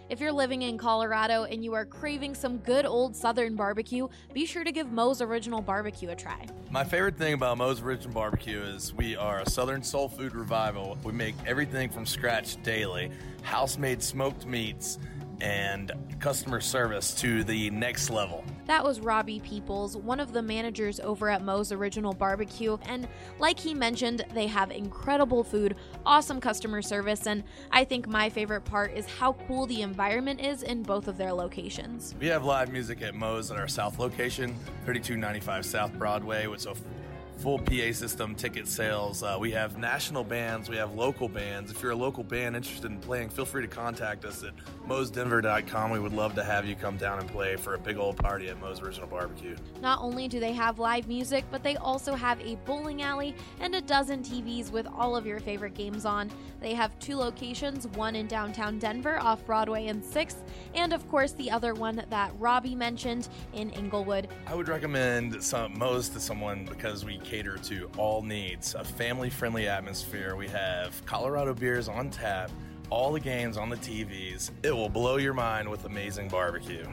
If you're living in Colorado and you are craving some good old Southern barbecue, be sure to give Moe's Original Barbecue a try. My favorite thing about Moe's Original Barbecue is we are a Southern soul food revival. We make everything from scratch daily, house-made smoked meats, and customer service to the next level. That was Robbie Peoples, one of the managers over at Moe's Original Barbecue, and like he mentioned, they have incredible food, awesome customer service, and I think my favorite part is how cool the environment is in both of their locations. We have live music at Moe's at our South location, 3295 South Broadway, with a full PA system, ticket sales. We have national bands, we have local bands. If you're a local band interested in playing, feel free to contact us at moesdenver.com. We would love to have you come down and play for a big old party at Moe's Original Barbecue. Not only do they have live music, but they also have a bowling alley and a dozen TVs with all of your favorite games on. They have 2 locations, one in downtown Denver off Broadway and 6th, and of course the other one that Robbie mentioned in Inglewood. I would recommend Moe's to someone because we cater to all needs, a family-friendly atmosphere. We have Colorado beers on tap, all the games on the TVs. It will blow your mind with amazing barbecue.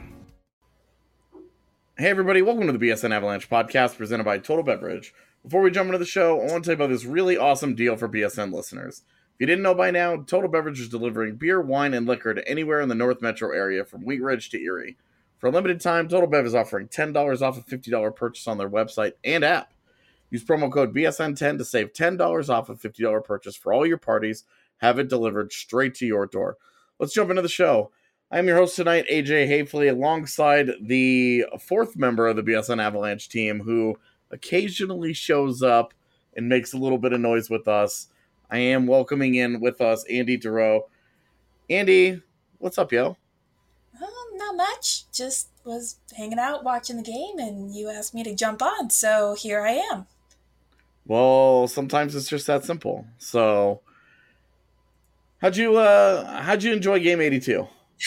Hey everybody, welcome to the BSN Avalanche podcast presented by Total Beverage. Before we jump into the show, I want to tell you about this really awesome deal for BSN listeners. If you didn't know by now, Total Beverage is delivering beer, wine, and liquor to anywhere in the North Metro area from Wheat Ridge to Erie. For a limited time, Total Bev is offering $10 off a $50 purchase on their website and app. Use promo code BSN10 to save $10 off a $50 purchase for all your parties. Have it delivered straight to your door. Let's jump into the show. I'm your host tonight, AJ Hafley, alongside the 4th member of the BSN Avalanche team who occasionally shows up and makes a little bit of noise with us. I am welcoming in with us Andy Durow. Andy, what's up, yo? Not much. Just was hanging out watching the game and you asked me to jump on, so here I am. Well, sometimes it's just that simple. So, how'd you enjoy Game 82?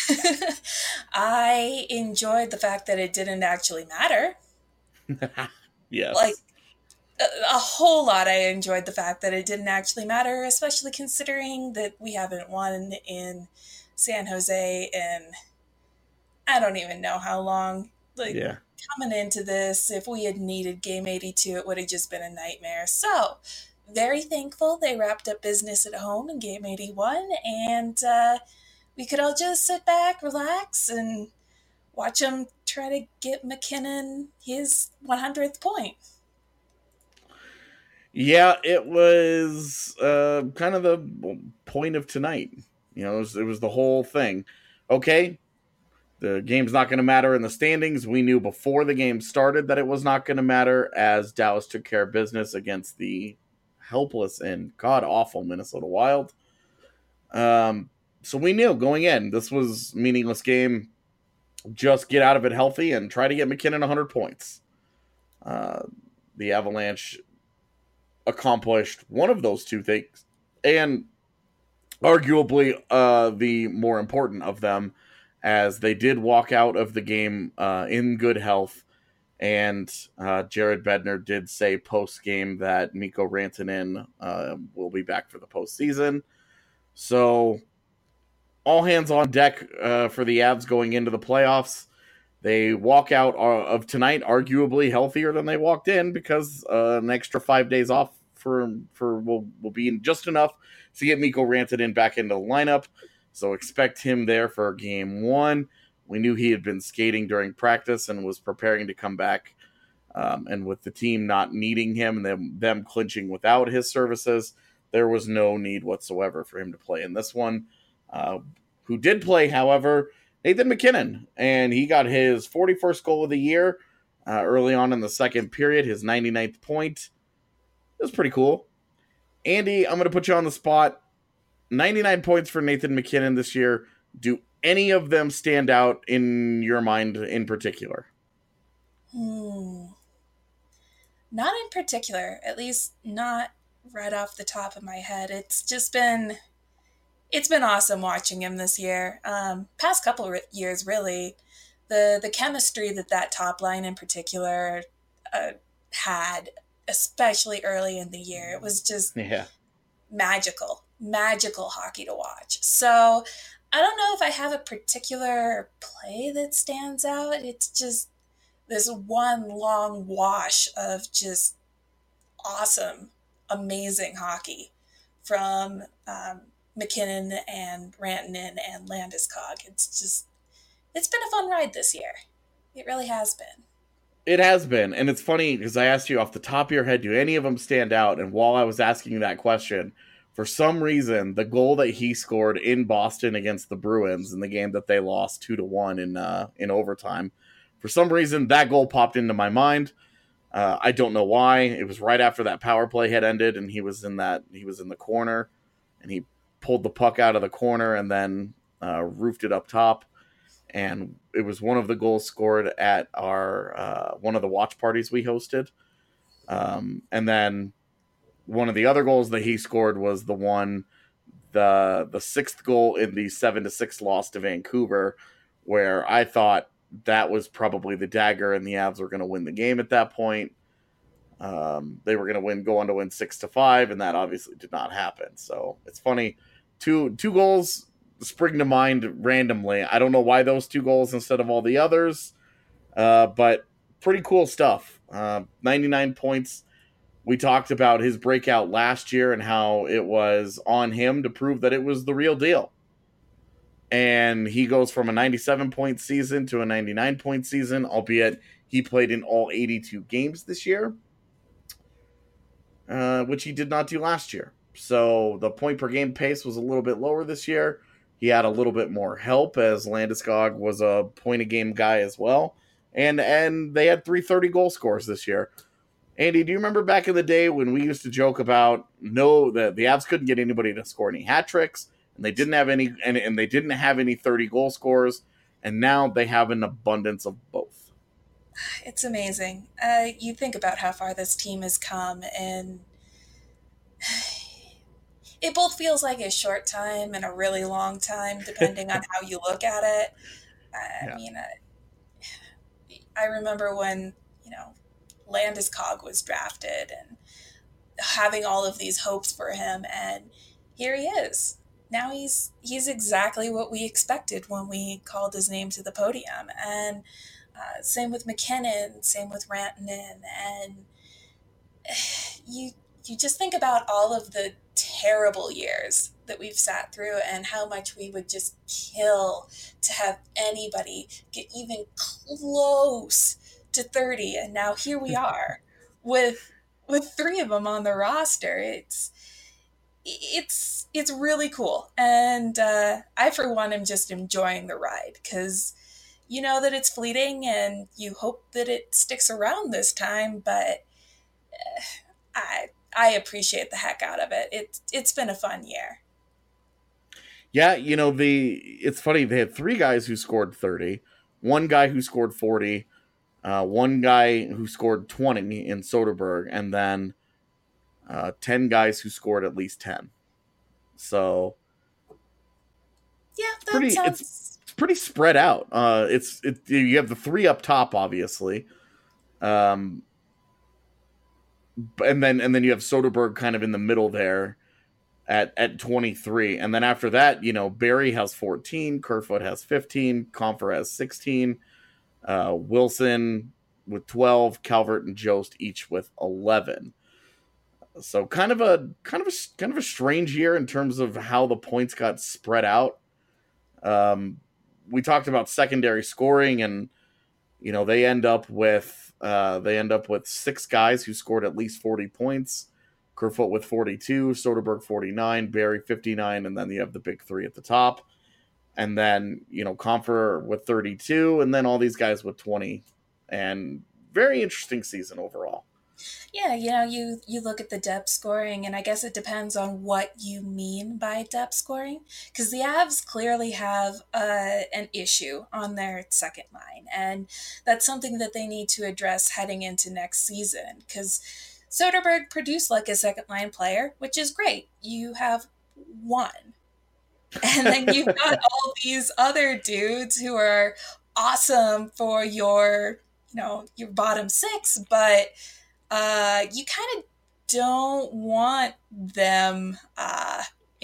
I enjoyed the fact that it didn't actually matter. Yes. Like, a whole lot I enjoyed the fact that it didn't actually matter, especially considering that we haven't won in San Jose in I don't even know how long. Yeah. Coming into this, if we had needed Game 82, it would have just been a nightmare. So, very thankful they wrapped up business at home in Game 81, and we could all just sit back, relax, and watch them try to get MacKinnon his 100th point. Yeah, it was kind of the point of tonight. You know, it was the whole thing. Okay, the game's not going to matter in the standings. We knew before the game started that it was not going to matter as Dallas took care of business against the helpless and god-awful Minnesota Wild. So we knew going in, this was a meaningless game. Just get out of it healthy and try to get MacKinnon 100 points. The Avalanche accomplished one of those two things, and arguably the more important of them, as they did walk out of the game in good health. And Jared Bednar did say post-game that Mikko Rantanen will be back for the postseason. So all hands on deck for the Avs going into the playoffs. They walk out of tonight arguably healthier than they walked in because an extra 5 days off will be just enough to get Mikko Rantanen back into the lineup. So expect him there for game 1. We knew he had been skating during practice and was preparing to come back. And with the team not needing him and them clinching without his services, there was no need whatsoever for him to play in this one. Who did play, however, Nathan MacKinnon. And he got his 41st goal of the year early on in the second period, his 99th point. It was pretty cool. Andy, I'm going to put you on the spot. 99 points for Nathan MacKinnon this year. Do any of them stand out in your mind in particular? Not in particular, at least not right off the top of my head. It's been awesome watching him this year. Past couple of years, really. The chemistry that top line in particular had, especially early in the year, it was just magical hockey to watch. So I don't know if I have a particular play that stands out. It's just this one long wash of just awesome, amazing hockey from MacKinnon and Rantanen and Landeskog. It's been a fun ride this year. It really has been. It has been, and it's funny because I asked you off the top of your head, do any of them stand out? And while I was asking you that question, for some reason, the goal that he scored in Boston against the Bruins in the game that they lost 2-1 in overtime, for some reason that goal popped into my mind. I don't know why. It was right after that power play had ended, and he was in the corner, and he pulled the puck out of the corner and then roofed it up top. And it was one of the goals scored at our one of the watch parties we hosted. And then one of the other goals that he scored was the sixth goal in the 7-6 loss to Vancouver, where I thought that was probably the dagger, and the Avs were going to win the game at that point. They were going to go on to win 6-5, and that obviously did not happen. So it's funny, two goals spring to mind randomly. I don't know why those 2 goals instead of all the others, but pretty cool stuff. 99 points. We talked about his breakout last year and how it was on him to prove that it was the real deal. And he goes from a 97-point season to a 99-point season, albeit he played in all 82 games this year, which he did not do last year. So the point-per-game pace was a little bit lower this year. He had a little bit more help as Landeskog was a point-a-game guy as well. And they had 3 30-goal scores this year. Andy, do you remember back in the day when we used to joke about the Avs couldn't get anybody to score any hat tricks, and they didn't have any 30-goal scores, and now they have an abundance of both. It's amazing. You think about how far this team has come, and it both feels like a short time and a really long time, depending on how you look at it. I mean, I remember when, Landeskog was drafted and having all of these hopes for him, and here he is. Now he's exactly what we expected when we called his name to the podium. And same with MacKinnon, same with Rantanen, and you just think about all of the terrible years that we've sat through and how much we would just kill to have anybody get even close to 30, and now here we are with 3 of them on the roster. It's really cool, and I for one am just enjoying the ride, because you know that it's fleeting and you hope that it sticks around this time, but I appreciate the heck out of it. It's been a fun year. Yeah, it's funny, they had 3 guys who scored 30, 1 guy who scored 40, 1 guy who scored 20 in Soderberg, and then 10 guys who scored at least 10. So yeah, it's pretty spread out. You have the 3 up top, obviously, and then you have Soderberg kind of in the middle there at 23, and then after that, Barrie has 14, Kerfoot has 15, Compher has 16. Wilson with 12, Calvert and Jost each with 11. So kind of a strange year in terms of how the points got spread out. We talked about secondary scoring, and they end up with 6 guys who scored at least 40 points. Kerfoot with 42, Soderberg 49, Barrie 59, and then you have the big 3 at the top. And then, Compher with 32, and then all these guys with 20. And very interesting season overall. Yeah, you look at the depth scoring, and I guess it depends on what you mean by depth scoring, because the Avs clearly have an issue on their second line, and that's something that they need to address heading into next season, because Soderberg produced like a second line player, which is great. You have 1. And then you've got all these other dudes who are awesome for your bottom 6, but you kind of don't want them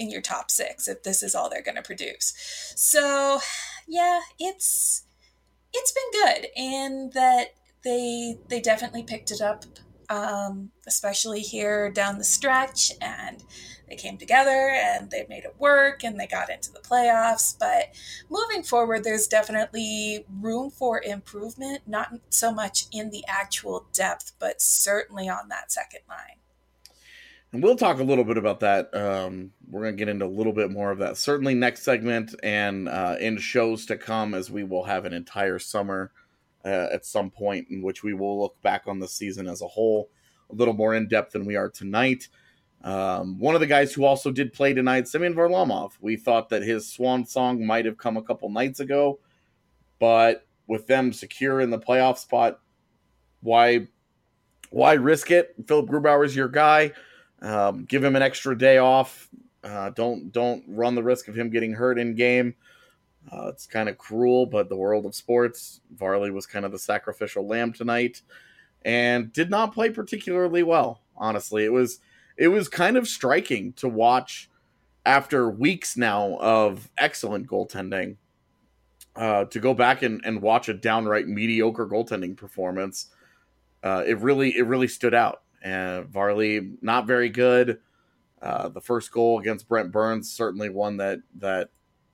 in your top 6 if this is all they're going to produce. So, yeah, it's been good, and that they definitely picked it up, especially here down the stretch, and they came together and they made it work and they got into the playoffs. But moving forward, there's definitely room for improvement, not so much in the actual depth, but certainly on that second line. And we'll talk a little bit about that. We're going to get into a little bit more of that certainly next segment and in shows to come, as we will have an entire summer at some point in which we will look back on the season as a whole a little more in depth than we are tonight. One of the guys who also did play tonight, Semyon Varlamov. We thought that his swan song might have come a couple nights ago, but with them secure in the playoff spot, why risk it? Philip Grubauer's your guy. Give him an extra day off. Don't run the risk of him getting hurt in game. It's kind of cruel, but the world of sports. Varley was kind of the sacrificial lamb tonight and did not play particularly well. Honestly, it was kind of striking to watch after weeks now of excellent goaltending, to go back and watch a downright mediocre goaltending performance. It really stood out. And Varley, not very good. The first goal against Brent Burns, certainly one that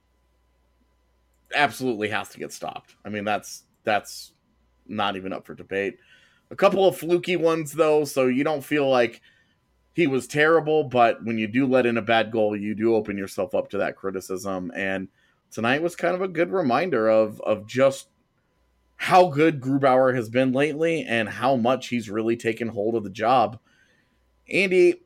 absolutely has to get stopped. I mean, that's not even up for debate. A couple of fluky ones, though, so you don't feel like he was terrible, but when you do let in a bad goal, you do open yourself up to that criticism. And tonight was kind of a good reminder of just how good Grubauer has been lately and how much he's really taken hold of the job. Andy,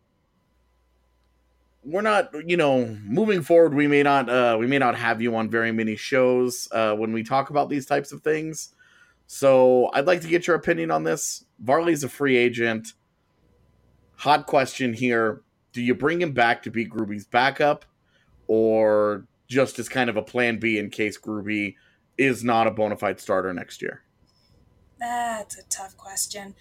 we're not, moving forward, we may not have you on very many shows when we talk about these types of things. So I'd like to get your opinion on this. Varley's a free agent. Hot question here. Do you bring him back to be Gruby's backup, or just as kind of a plan B in case Gruby is not a bona fide starter next year? That's a tough question.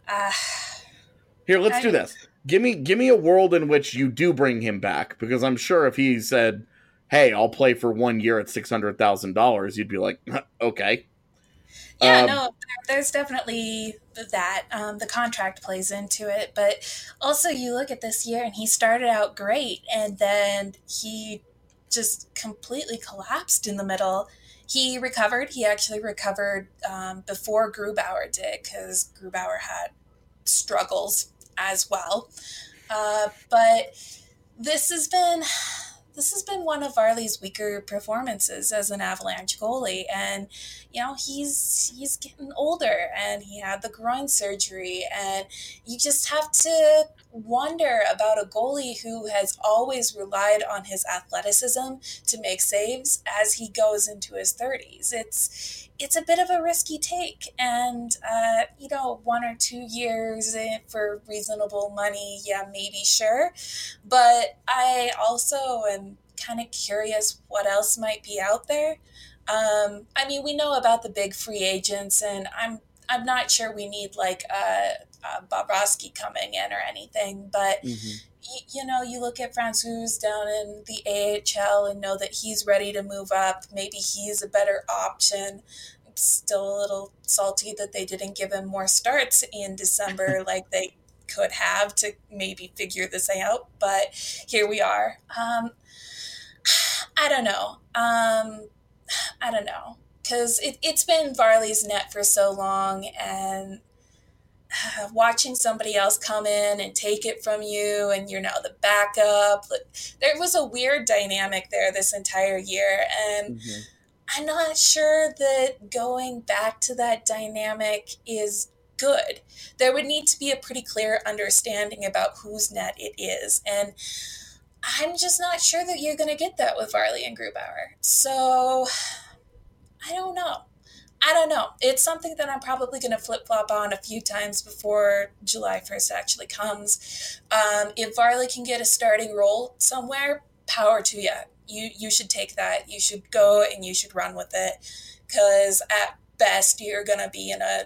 Here, let's do this. Give me a world in which you do bring him back, because I'm sure if he said, "Hey, I'll play for 1 year at $600,000," you'd be like, "Okay." Yeah, no, there's definitely that. The contract plays into it, but also you look at this year and he started out great, and then he just completely collapsed in the middle. He recovered. He actually recovered before Grubauer did, because Grubauer had struggles as well. But this has been one of Varley's weaker performances as an Avalanche goalie, and he's getting older, and he had the groin surgery, and you just have to wonder about a goalie who has always relied on his athleticism to make saves as he goes into his 30s. It's a bit of a risky take, and 1 or 2 years for reasonable money, yeah, maybe, sure, but I also am kind of curious what else might be out there. We know about the big free agents, and I'm not sure we need like Bobrovsky coming in or anything, but you look at Francouz down in the AHL and know that he's ready to move up. Maybe he's a better option. I'm still a little salty that they didn't give him more starts in December like they could have to maybe figure this out, but here we are. I don't know, because it's been Varley's net for so long, and watching somebody else come in and take it from you, and you're now the backup. There was a weird dynamic there this entire year, and I'm not sure that going back to that dynamic is good. There would need to be a pretty clear understanding about whose net it is, and I'm just not sure that you're going to get that with Varley and Grubauer. So I don't know. It's something that I'm probably going to flip-flop on a few times before July 1st actually comes. If Varley can get a starting role somewhere, power to you. You should take that. You should go and you should run with it, because at best you're going to be in a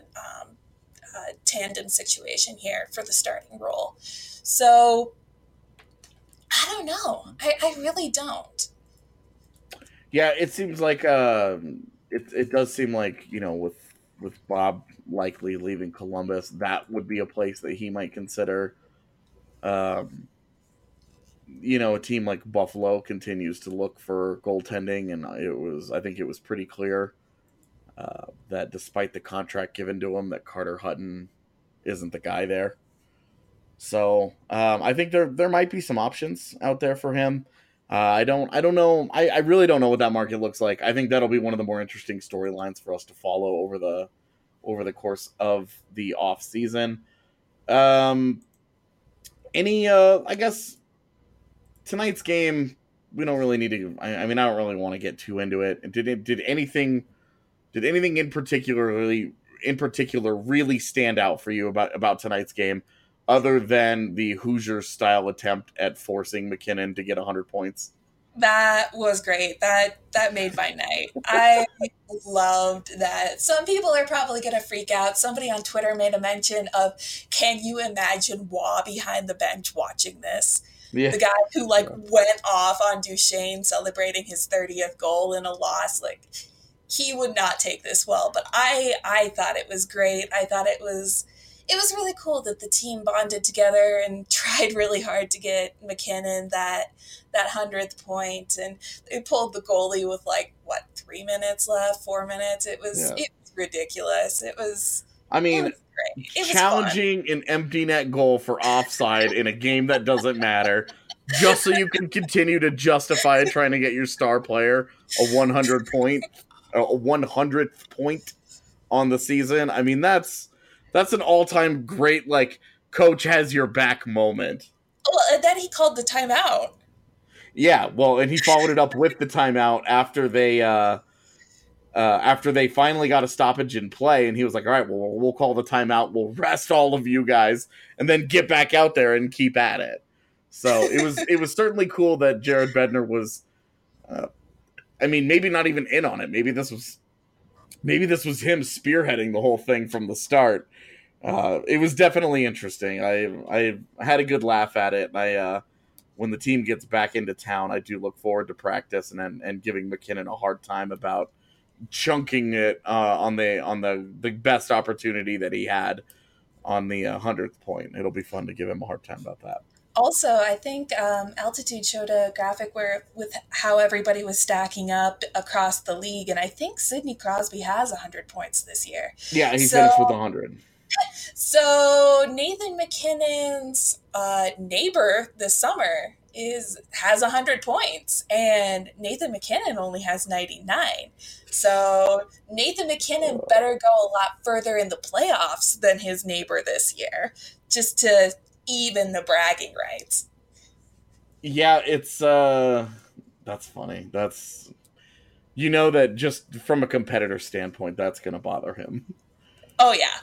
tandem situation here for the starting role. So I don't know. I really don't. Yeah, it seems like it does seem like, with Bob likely leaving Columbus, that would be a place that he might consider. Um, a team like Buffalo continues to look for goaltending, and I think it was pretty clear that despite the contract given to him, that Carter Hutton isn't the guy there. So I think there might be some options out there for him. I don't know. I really don't know what that market looks like. I think that'll be one of the more interesting storylines for us to follow over the course of the off season. I guess tonight's game, we don't really need to. I don't really want to get too into it. Did anything in particular really stand out for you about tonight's game, other than the Hoosiers style attempt at forcing MacKinnon to get 100 points? That was great. That made my night. I loved that. Some people are probably going to freak out. Somebody on Twitter made a mention of, can you imagine Waugh behind the bench watching this? Yeah. The guy who went off on Duchesne celebrating his 30th goal in a loss. He would not take this well, but I thought it was great. I thought it was really cool that the team bonded together and tried really hard to get MacKinnon that 100th point, and they pulled the goalie with 3 minutes left, 4 minutes. It was ridiculous. It was great. It challenging was an empty net goal for offside in a game that doesn't matter, just so you can continue to justify trying to get your star player a 100th point on the season. I mean, that's an all-time great, coach has your back moment. Well, and then he called the timeout. Yeah, well, and he followed it up with the timeout after they finally got a stoppage in play, and he was like, all right, well, we'll call the timeout, we'll rest all of you guys, and then get back out there and keep at it. So it was certainly cool that Jared Bednar was, maybe not even in on it. Maybe this was him spearheading the whole thing from the start. It was definitely interesting. I had a good laugh at it. When the team gets back into town, I do look forward to practice and giving MacKinnon a hard time about chunking it on the best opportunity that he had on the 100th point. It'll be fun to give him a hard time about that. Also, I think Altitude showed a graphic with how everybody was stacking up across the league, and I think Sidney Crosby has 100 points this year. Yeah, he finished with 100. So Nathan MacKinnon's neighbor this summer has 100 points, and Nathan MacKinnon only has 99. So Nathan MacKinnon better go a lot further in the playoffs than his neighbor this year, just to even the bragging rights. Yeah, it's that's funny. That's, that just from a competitor standpoint, that's going to bother him. Oh yeah.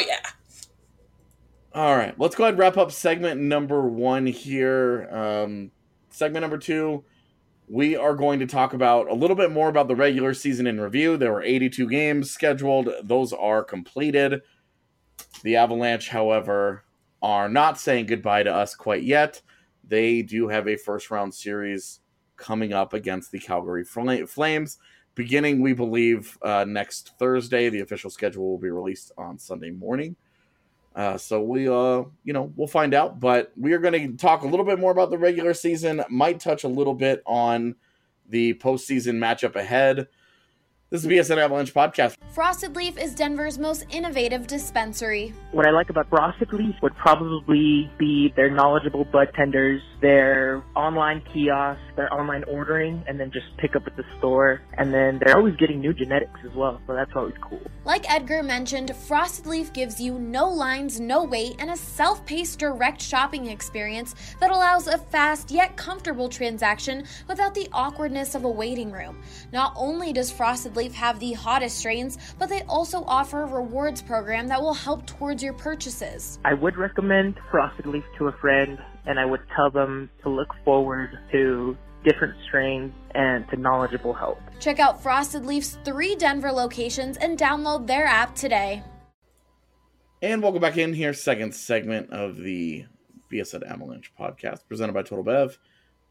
All right, let's go ahead and wrap up segment number 1 here. Segment number 2, we are going to talk about a little bit more about the regular season in review. There were 82 games scheduled. Those are completed. The Avalanche, however, are not saying goodbye to us quite yet. They do have a first-round series coming up against the Calgary Flames, beginning, we believe, next Thursday. The official schedule will be released on Sunday morning. So we'll find out. But we are going to talk a little bit more about the regular season, might touch a little bit on the postseason matchup ahead. This is the BSN Avalanche podcast. Frosted Leaf is Denver's most innovative dispensary. What I like about Frosted Leaf would probably be their knowledgeable bud tenders, their online kiosks, their online ordering, and then just pick up at the store. And then they're always getting new genetics as well, so that's always cool. Like Edgar mentioned, Frosted Leaf gives you no lines, no wait, and a self-paced direct shopping experience that allows a fast yet comfortable transaction without the awkwardness of a waiting room. Not only does Frosted Leaf have the hottest strains, but they also offer a rewards program that will help towards your purchases. I would recommend Frosted Leaf to a friend, and I would tell them to look forward to different strains and to knowledgeable help. Check out Frosted Leaf's 3 Denver locations and download their app today. And welcome back in here, second segment of the BSN Avalanche podcast, presented by Total Bev.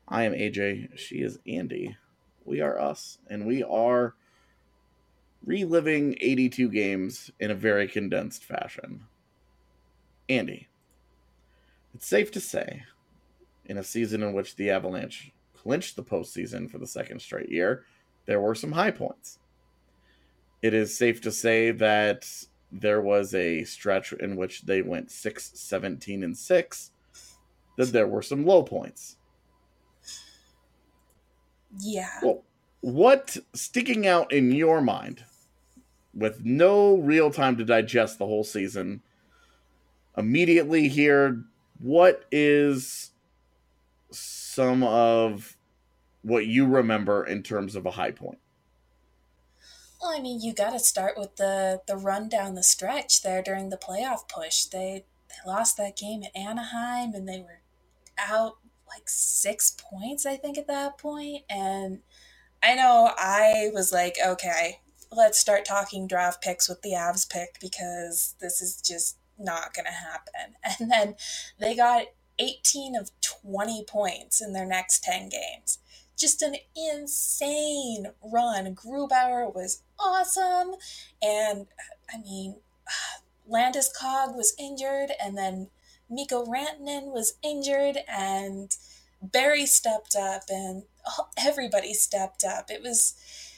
I am AJ. She is Andy. We are us, and we are reliving 82 games in a very condensed fashion. Andy, it's safe to say, in a season in which the Avalanche clinched the postseason for the second straight year, there were some high points. It is safe to say that there was a stretch in which they went 6-17-6, that there were some low points. Yeah. Well, what sticking out in your mind, with no real time to digest the whole season, immediately here, what is some of what you remember in terms of a high point? Well, I mean, you got to start with the run down the stretch there during the playoff push. They lost that game at Anaheim, and they were out like 6 points, I think, at that point. And I know I was like, okay, let's start talking draft picks with the Avs pick because this is just not going to happen. And then they got 18 of 20 points in their next 10 games. Just an insane run. Grubauer was awesome. And, I mean, Landeskog was injured, and then Mikko Rantanen was injured, and Barry stepped up, and everybody stepped up. It was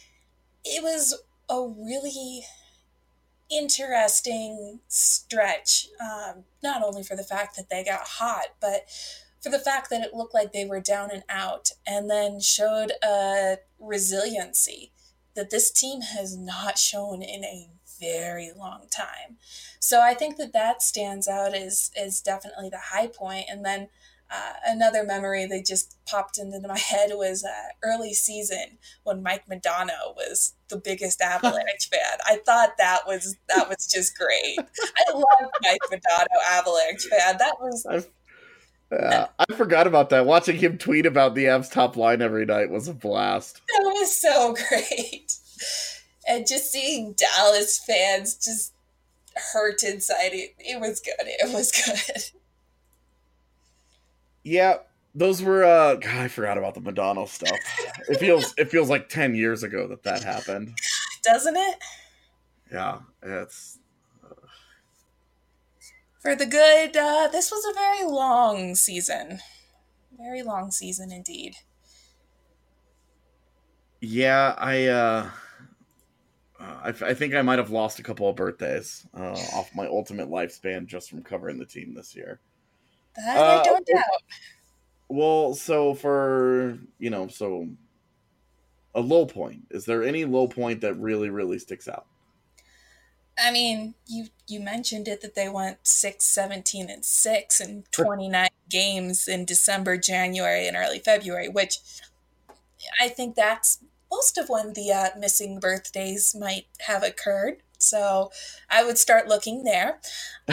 a really interesting stretch, not only for the fact that they got hot, but for the fact that it looked like they were down and out, and then showed a resiliency that this team has not shown in a very long time. So I think that stands out as definitely the high point. And then another memory that just popped into my head was early season when Mike Modano was the biggest Avalanche fan. I thought that was just great. I love Mike Modano, Avalanche fan. That was... I forgot about that. Watching him tweet about the Avs top line every night was a blast. That was so great. And just seeing Dallas fans just hurt inside, it was good. It was good. Yeah, those were God, I forgot about the Madonna stuff. It feels like 10 years ago that happened. Doesn't it? Yeah, it's for the good. This was a very long season. Very long season indeed. Yeah, I think I might have lost a couple of birthdays off my ultimate lifespan just from covering the team this year. That I don't doubt. Well, so for, so a low point. Is there any low point that really, really sticks out? I mean, you mentioned it that they went 6-17-6 in 29 games in December, January, and early February, which I think that's most of when the missing birthdays might have occurred. So I would start looking there.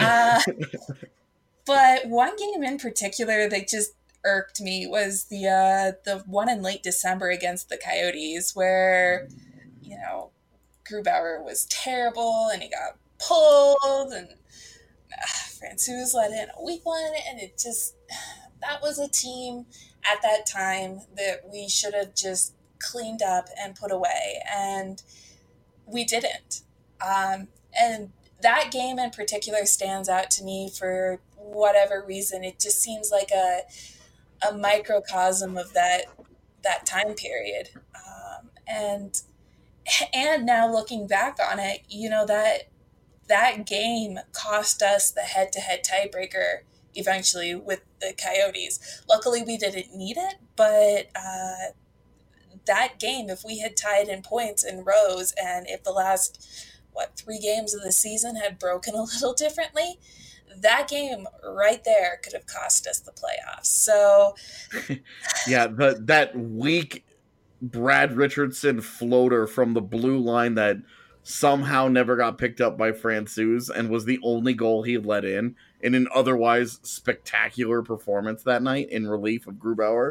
But one game in particular that just irked me was the one in late December against the Coyotes where, Grubauer was terrible and he got pulled and Francouz let in a weak one, and that was a team at that time that we should have just cleaned up and put away, and we didn't. And that game in particular stands out to me for whatever reason. It just seems like a microcosm of that time period. And now looking back on it, that game cost us the head-to-head tiebreaker eventually with the Coyotes. Luckily, we didn't need it, but that game, if we had tied in points in rows, and if the last, 3 games of the season had broken a little differently, that game right there could have cost us the playoffs. So, yeah, that weak Brad Richardson floater from the blue line that somehow never got picked up by Francouz and was the only goal he let in an otherwise spectacular performance that night in relief of Grubauer.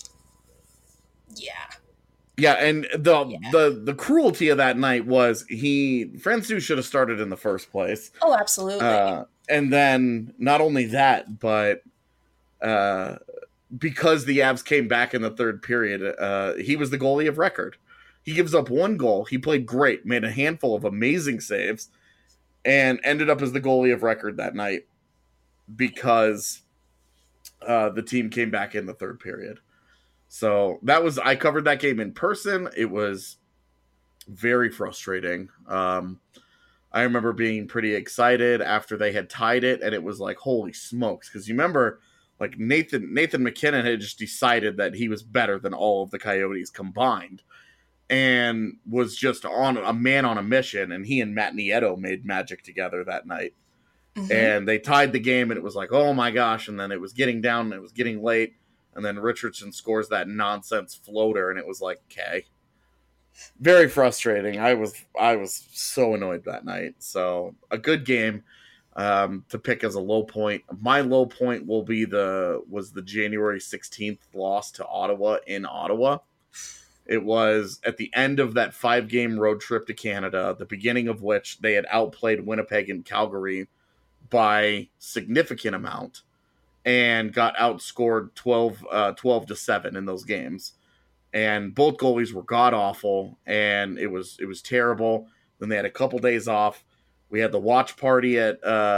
Yeah, and the cruelty of that night was Francouz should have started in the first place. Oh, absolutely. And then not only that, but because the Avs came back in the third period, he was the goalie of record. He gives up one goal. He played great, made a handful of amazing saves, and ended up as the goalie of record that night because the team came back in the third period. So I covered that game in person. It was very frustrating. I remember being pretty excited after they had tied it, and it was like, holy smokes. Because you remember, like, Nathan MacKinnon had just decided that he was better than all of the Coyotes combined and was just on a man on a mission, and he and Matt Nieto made magic together that night. Mm-hmm. And they tied the game, and it was like, oh my gosh, and then it was getting down, and it was getting late, and then Richardson scores that nonsense floater, and it was like, okay. Very frustrating. I was so annoyed that night. So a good game to pick as a low point. My low point was the January 16th loss to Ottawa in Ottawa. It was at the end of that 5-game road trip to Canada, the beginning of which they had outplayed Winnipeg and Calgary by significant amount and got outscored 12-7 in those games. And both goalies were god-awful, and it was terrible. Then they had a couple days off. We had the watch party for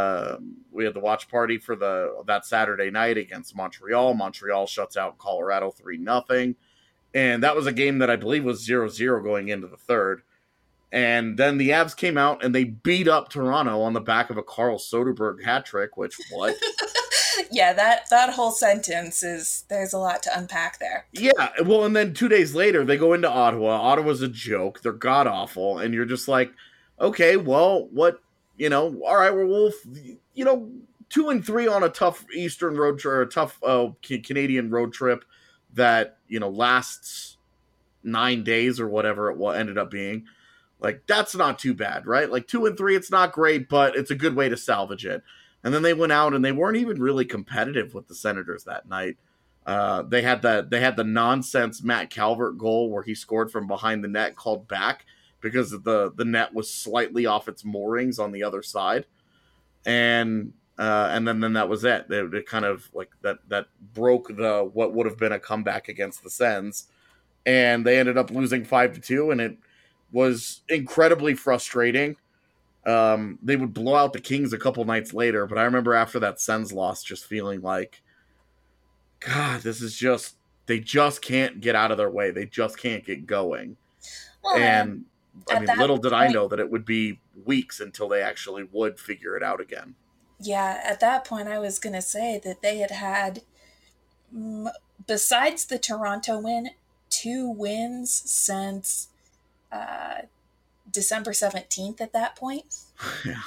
that Saturday night against Montreal. Montreal shuts out Colorado 3-0. And that was a game that I believe was 0-0 going into the third. And then the Avs came out and they beat up Toronto on the back of a Carl Soderberg hat trick, which, what? Yeah, that whole sentence there's a lot to unpack there. Yeah, well, and then 2 days later, they go into Ottawa. Ottawa's a joke. They're god-awful. And you're just like, okay, well, what, all right, we'll 2-3 on a tough Eastern road trip, or a tough Canadian road trip that, lasts 9 days or whatever it ended up being. Like, that's not too bad, right? Like, 2-3, it's not great, but it's a good way to salvage it. And then they went out and they weren't even really competitive with the Senators that night. They had the nonsense Matt Calvert goal where he scored from behind the net called back because the net was slightly off its moorings on the other side. And then that was it. It kind of like that broke what would have been a comeback against the Sens. And they ended up losing 5-2, and it was incredibly frustrating. They would blow out the Kings a couple nights later, but I remember after that Sens loss just feeling like, God, they just can't get out of their way. They just can't get going. Well, and little did I know that it would be weeks until they actually would figure it out again. Yeah, at that point I was going to say that they had besides the Toronto win, 2 wins since December 17th at that point. Yeah.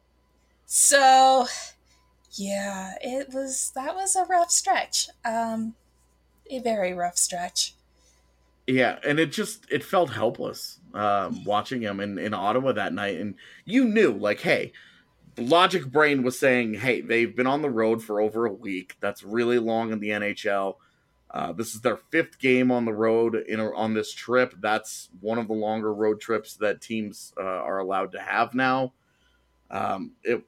So, yeah, that was a rough stretch. A very rough stretch. Yeah, and it felt helpless watching him in Ottawa that night. And you knew, like, hey, the logic brain was saying, hey, they've been on the road for over a week. That's really long in the NHL. This is their 5th game on the road on this trip. That's one of the longer road trips that teams are allowed to have now. It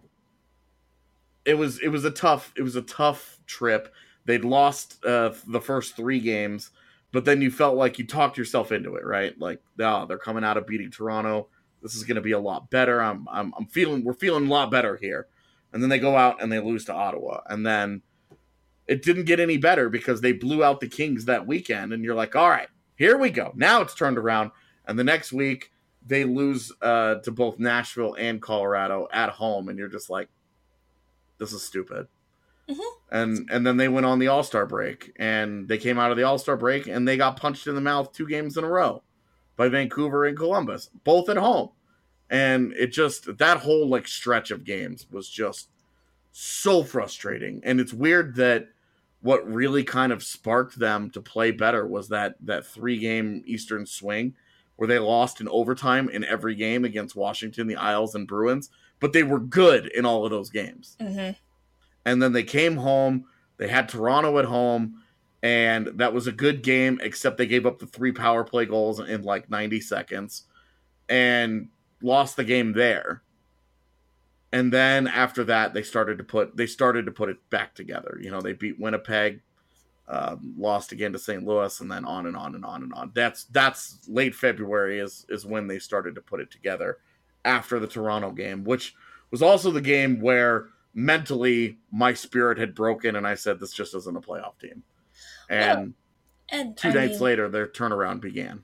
was a tough trip. They'd lost the first 3 games, but then you felt like you talked yourself into it, right? Like, they're coming out of beating Toronto. This is going to be a lot better. We're feeling a lot better here. And then they go out and they lose to Ottawa, and then it didn't get any better because they blew out the Kings that weekend. And you're like, all right, here we go. Now it's turned around. And the next week they lose to both Nashville and Colorado at home. And you're just like, this is stupid. Mm-hmm. And then they went on the All-Star break, and they came out of the All-Star break and they got punched in the mouth 2 games in a row by Vancouver and Columbus, both at home. And that whole stretch of games was just so frustrating. And it's weird that what really kind of sparked them to play better was that 3-game Eastern swing where they lost in overtime in every game against Washington, the Isles, and Bruins, but they were good in all of those games. Mm-hmm. And then they came home, they had Toronto at home, and that was a good game, except they gave up the 3 power play goals in 90 seconds and lost the game there. And then after that, they started to put it back together. They beat Winnipeg lost again to St. Louis, and then on and on and on and on. That's late February is when they started to put it together after the Toronto game, which was also the game where mentally my spirit had broken, and I said, this just isn't a playoff team. And, two nights later, their turnaround began.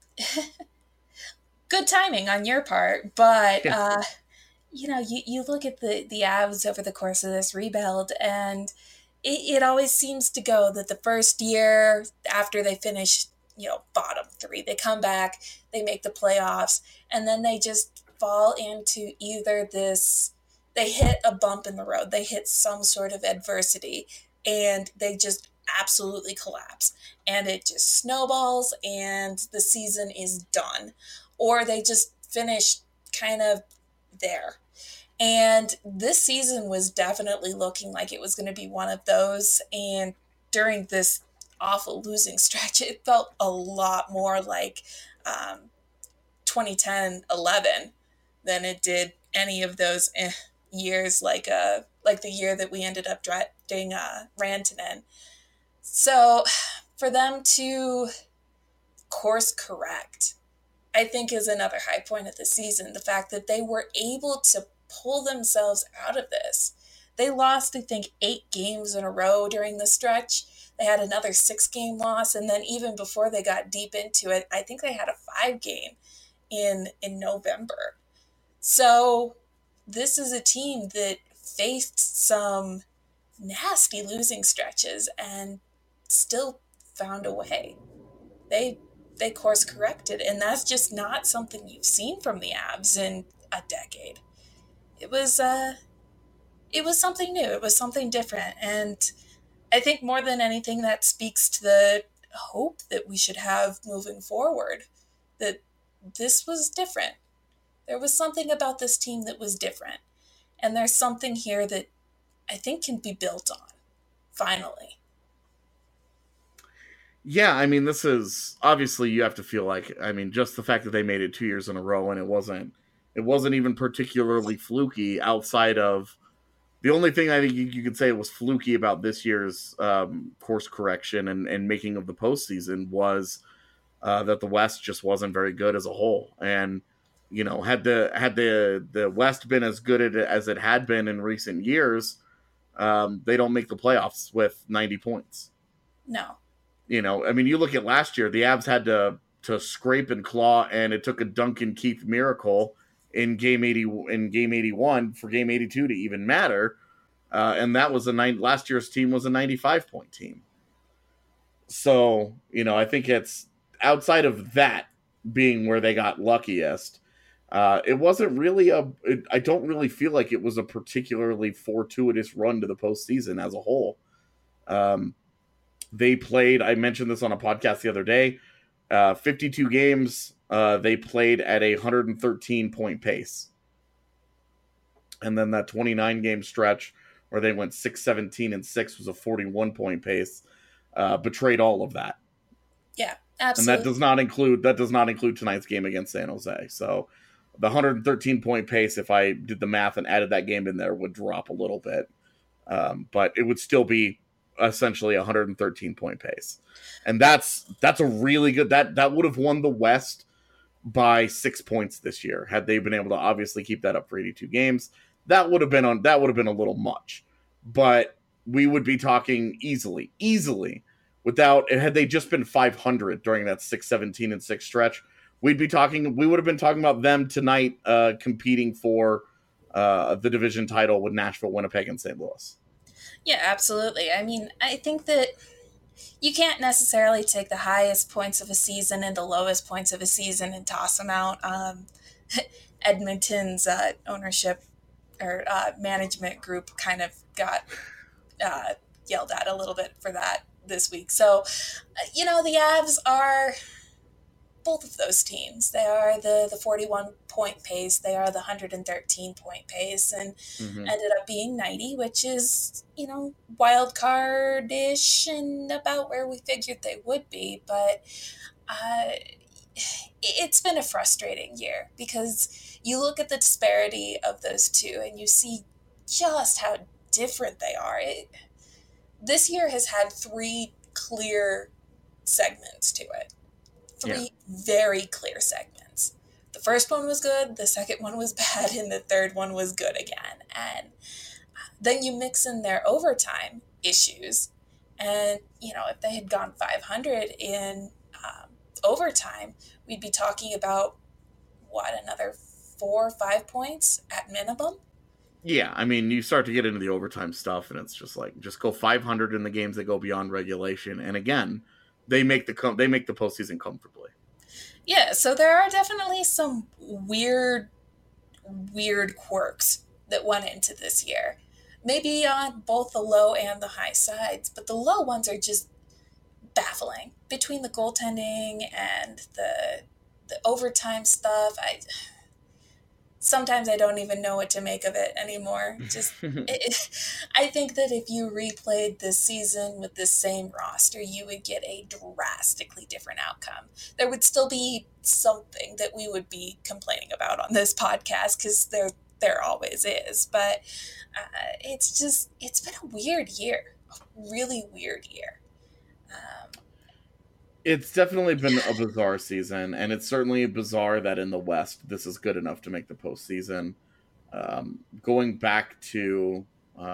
Good timing on your part, but you look at the Avs over the course of this rebuild, and it always seems to go that the first year after they finish, bottom three, they come back, they make the playoffs, and then they just fall into either they hit a bump in the road, they hit some sort of adversity, and they just absolutely collapse, and it just snowballs, and the season is done. Or they just finish kind of there. And this season was definitely looking like it was going to be one of those. And during this awful losing stretch, it felt a lot more like 2010-11 than it did any of those years, like the year that we ended up drafting Rantanen. So for them to course correct, I think, is another high point of the season. The fact that they were able to pull themselves out of this. They lost, I think, 8 games in a row during the stretch. They had another 6-game loss, and then even before they got deep into it, I think they had a 5-game in November. So this is a team that faced some nasty losing stretches and still found a way. They course corrected, and that's just not something you've seen from the Avs in a decade. It was something new. It was something different, and I think more than anything that speaks to the hope that we should have moving forward, that this was different. There was something about this team that was different, and there's something here that I think can be built on, finally. Yeah, I mean, this is obviously, you have to feel like, I mean, just the fact that they made it 2 years in a row, and it wasn't even particularly fluky outside of the only thing I think you could say was fluky about this year's course correction and making of the postseason was that the West just wasn't very good as a whole. And, had the West been as good as it had been in recent years, they don't make the playoffs with 90 points. No. I mean, you look at last year, the Avs had to scrape and claw, and it took a Duncan Keith miracle in game 81 for game 82 to even matter. And that was last year's team was a 95-point team. So, I think it's outside of that being where they got luckiest. It wasn't really I don't really feel like it was a particularly fortuitous run to the postseason as a whole. They played, I mentioned this on a podcast the other day, 52 games, they played at a 113-point pace. And then that 29-game stretch where they went 6-17-6 was a 41-point pace, betrayed all of that. Yeah, absolutely. And that does not include tonight's game against San Jose. So the 113-point pace, if I did the math and added that game in there, would drop a little bit. But it would still be essentially 113-point pace. And that's a really good, that would have won the West by 6 points this year had they been able to obviously keep that up for 82 games. That would have been a little much, but we would be talking easily without, had they just been 500 during that 6-17-6 stretch, we would have been talking about them tonight, competing for the division title with Nashville, Winnipeg, and St. Louis. Yeah, absolutely. I mean, I think that you can't necessarily take the highest points of a season and the lowest points of a season and toss them out. Edmonton's ownership or management group kind of got yelled at a little bit for that this week. So, the Avs are both of those teams. They are the 41-point pace. They are the 113-point pace, and ended up being 90, which is, wild card-ish and about where we figured they would be. But it's been a frustrating year because you look at the disparity of those two and you see just how different they are. This year has had 3 clear segments to it. Three Yeah. very clear segments. The first one was good, the second one was bad, and the third one was good again. And then you mix in their overtime issues. And, if they had gone 500 in overtime, we'd be talking about, another 4 or 5 points at minimum? Yeah, I mean, you start to get into the overtime stuff, and it's just like, just go 500 in the games that go beyond regulation. And again, they make the postseason comfortably. Yeah, so there are definitely some weird quirks that went into this year. Maybe on both the low and the high sides, but the low ones are just baffling. Between the goaltending and the overtime stuff, sometimes I don't even know what to make of it anymore. I think that if you replayed this season with the same roster, you would get a drastically different outcome. There would still be something that we would be complaining about on this podcast, because there always is. But it's been a weird year, a really weird year. It's definitely been a bizarre season, and it's certainly bizarre that in the West this is good enough to make the postseason. Going back to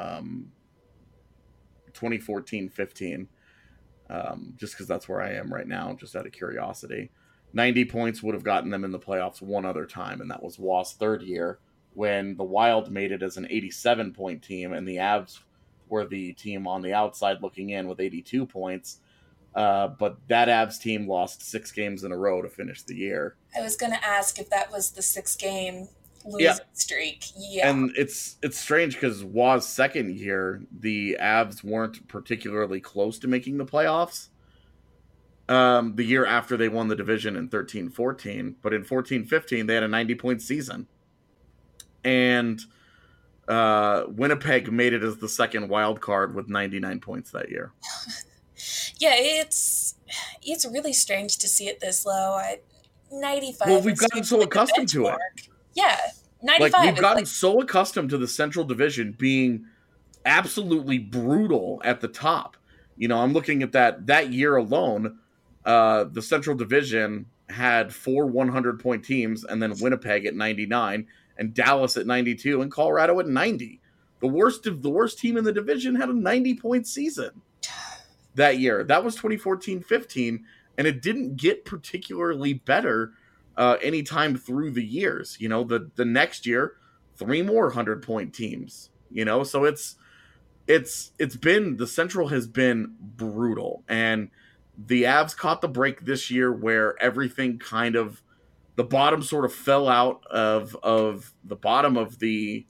2014-15, just because that's where I am right now, just out of curiosity, 90 points would have gotten them in the playoffs one other time, and that was Waugh's third year, when the Wild made it as an 87-point team, and the Avs were the team on the outside looking in with 82 points. But that Avs team lost 6 games in a row to finish the year. I was going to ask if that was the 6-game losing streak. Yeah. And it's strange because Waugh's second year, the Avs weren't particularly close to making the playoffs. The year after they won the division in 13-14, but in 14-15 they had a 90-point season. And Winnipeg made it as the second wild card with 99 points that year. Yeah, it's really strange to see it this low. 95. Well, we've gotten so accustomed to it. Yeah, 95. Like, we've gotten so accustomed to the Central Division being absolutely brutal at the top. I'm looking at that year alone. The Central Division had 4 100-point teams, and then Winnipeg at 99, and Dallas at 92, and Colorado at 90. The worst team in the division had a 90-point season that year. That was 2014-15, and it didn't get particularly better anytime through the years. The next year, 3 more 100-point teams. So it's been, the Central has been brutal, and the Avs caught the break this year where everything kind of, the bottom sort of fell out of the bottom of the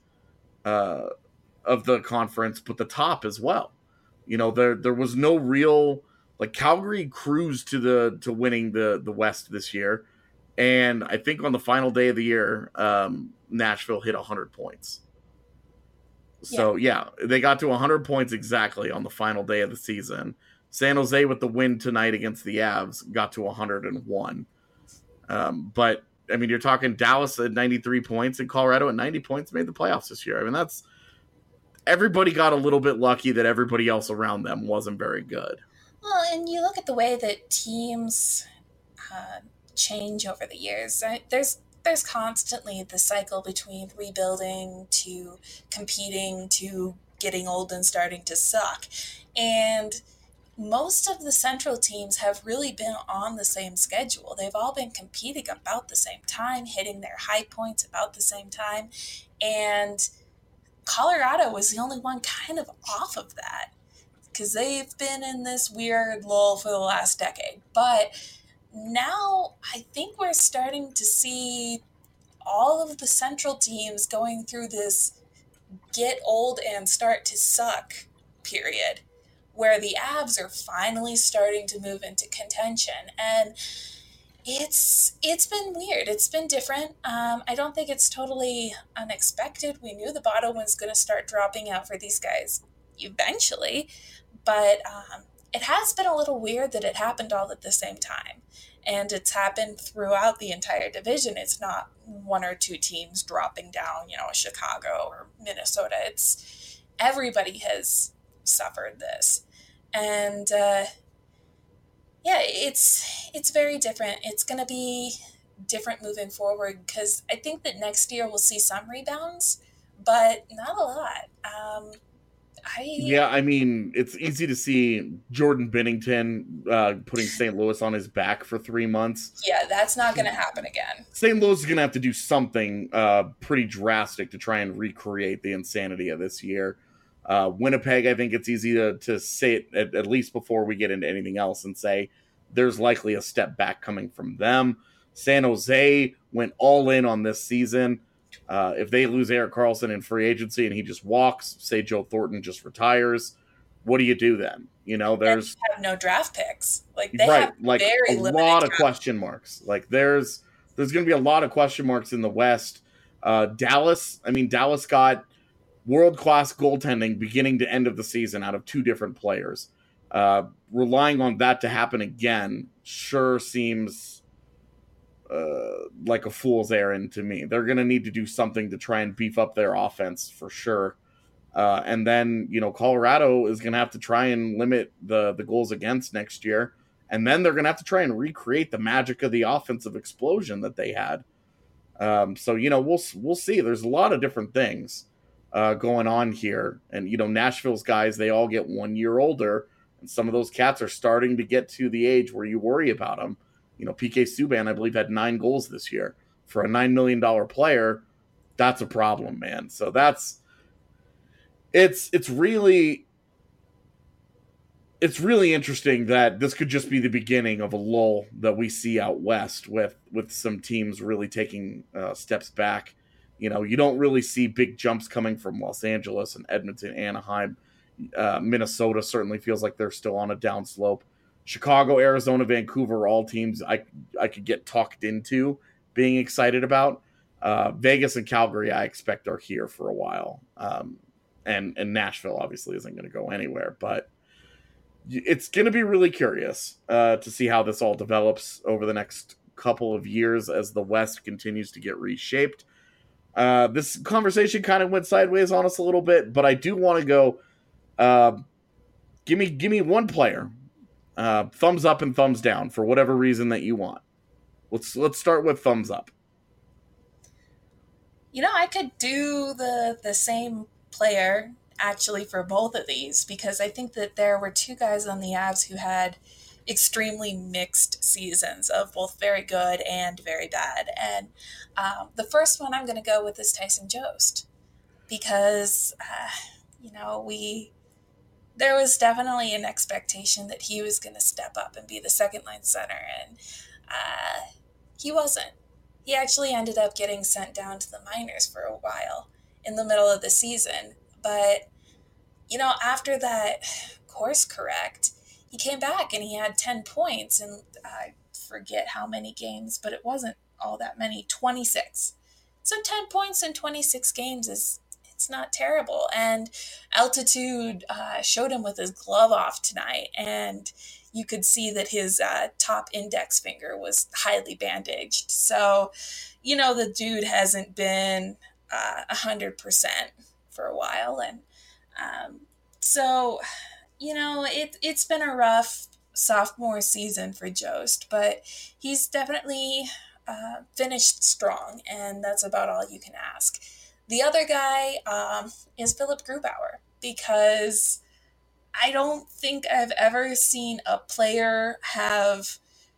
conference, but the top as well. There was no real, like, Calgary cruised to winning the West this year, and I think on the final day of the year, Nashville hit 100 points. So yeah, they got to 100 points exactly on the final day of the season. San Jose, with the win tonight against the Avs, got to 101. But I mean, you're talking Dallas at 93 points and Colorado at 90 points made the playoffs this year. I mean, that's, everybody got a little bit lucky that everybody else around them wasn't very good. Well, and you look at the way that teams change over the years. There's constantly the cycle between rebuilding to competing to getting old and starting to suck. And most of the Central teams have really been on the same schedule. They've all been competing about the same time, hitting their high points about the same time. And Colorado was the only one kind of off of that, because they've been in this weird lull for the last decade. But now I think we're starting to see all of the Central teams going through this get old and start to suck period, where the Avs are finally starting to move into contention. And it's been weird. It's been different. I don't think it's totally unexpected. We knew the bottom was going to start dropping out for these guys eventually, but it has been a little weird that it happened all at the same time. And it's happened throughout the entire division. It's not 1 or 2 teams dropping down, Chicago or Minnesota. It's everybody has suffered this. And Yeah, it's very different. It's going to be different moving forward because I think that next year we'll see some rebounds, but not a lot. I Yeah, I mean, it's easy to see Jordan Bennington putting St. Louis on his back for 3 months. Yeah, that's not going to happen again. St. Louis is going to have to do something pretty drastic to try and recreate the insanity of this year. Winnipeg, I think it's easy to say it at least before we get into anything else and say there's likely a step back coming from them. San Jose went all in on this season. If they lose Erik Karlsson in free agency and he just walks, say Joe Thornton just retires, what do you do then? You know, there's have no draft picks. Like they right, have like very a limited lot of draft. question marks. Like there's going to be a lot of question marks in the West. Dallas, I mean, Dallas got world-class goaltending beginning to end of the season out of two different players. Relying on that to happen again sure seems like a fool's errand to me. They're going to need to do something to try and beef up their offense for sure. And then, you know, Colorado is going to have to try and limit the goals against next year. And then they're going to have to try and recreate the magic of the offensive explosion that they had. So, you know, we'll see. There's a lot of different things going on here. And, you know, Nashville's guys, they all get 1 year older. And some of those cats are starting to get to the age where you worry about them. You know, PK Subban, I believe, had 9 goals this year. For a $9 million player, that's a problem, man. So it's really interesting that this could just be the beginning of a lull that we see out west with some teams really taking steps back. You know, you don't really see big jumps coming from Los Angeles and Edmonton, Anaheim. Minnesota certainly feels like they're still on a downslope. Chicago, Arizona, Vancouver, all teams I could get talked into being excited about. Vegas and Calgary, I expect, are here for a while. And Nashville obviously isn't going to go anywhere, but it's going to be really curious to see how this all develops over the next couple of years as the West continues to get reshaped. This conversation kind of went sideways on us a little bit, but I do want to go. Give me one player, thumbs up and thumbs down for whatever reason that you want. Let's start with thumbs up. You know, I could do the same player actually for both of these because I think that there were two guys on the Avs who had extremely mixed seasons of both very good and very bad. And the first one I'm going to go with is Tyson Jost because, you know, there was definitely an expectation that he was going to step up and be the second line center, and he wasn't. He actually ended up getting sent down to the minors for a while in the middle of the season. But, you know, after that course correct, he came back and he had 10 points. And I forget how many games, but it wasn't all that many, 26. So 10 points in 26 games it's not terrible. And Altitude showed him with his glove off tonight. And you could see that his top index finger was highly bandaged. So, you know, the dude hasn't been 100% for a while. And so, you know, it's been a rough sophomore season for Jost, but he's definitely finished strong, and that's about all you can ask. The other guy is Philip Grubauer, because I don't think I've ever seen a player have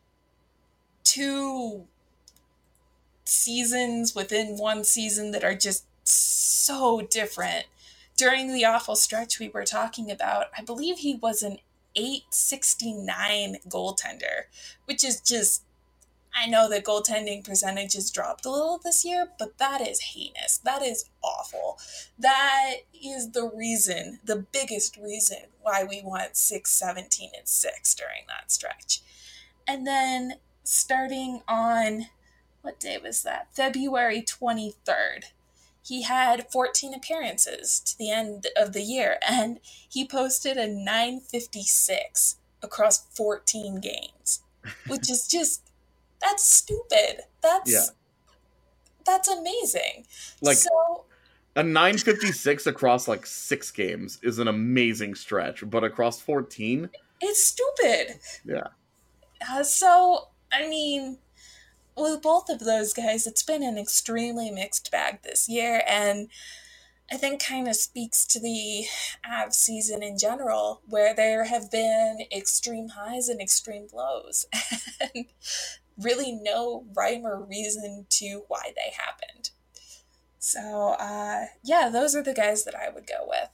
2 seasons within one season that are just so different. During the awful stretch we were talking about, I believe he was an .869 goaltender, which is just, I know that goaltending percentage has dropped a little this year, but that is heinous. That is awful. That is the reason, the biggest reason why we went 6-17-6 during that stretch. And then starting on, what day was that? February 23rd. He had 14 appearances to the end of the year, and he posted a .956 across 14 games, which is just, that's stupid. That's amazing. Like, so, a .956 across like 6 games is an amazing stretch, but across 14, it's stupid. yeah. So, I mean, with both of those guys, it's been an extremely mixed bag this year, and I think kind of speaks to the Avs season in general, where there have been extreme highs and extreme lows, and really no rhyme or reason to why they happened. So, yeah, those are the guys that I would go with.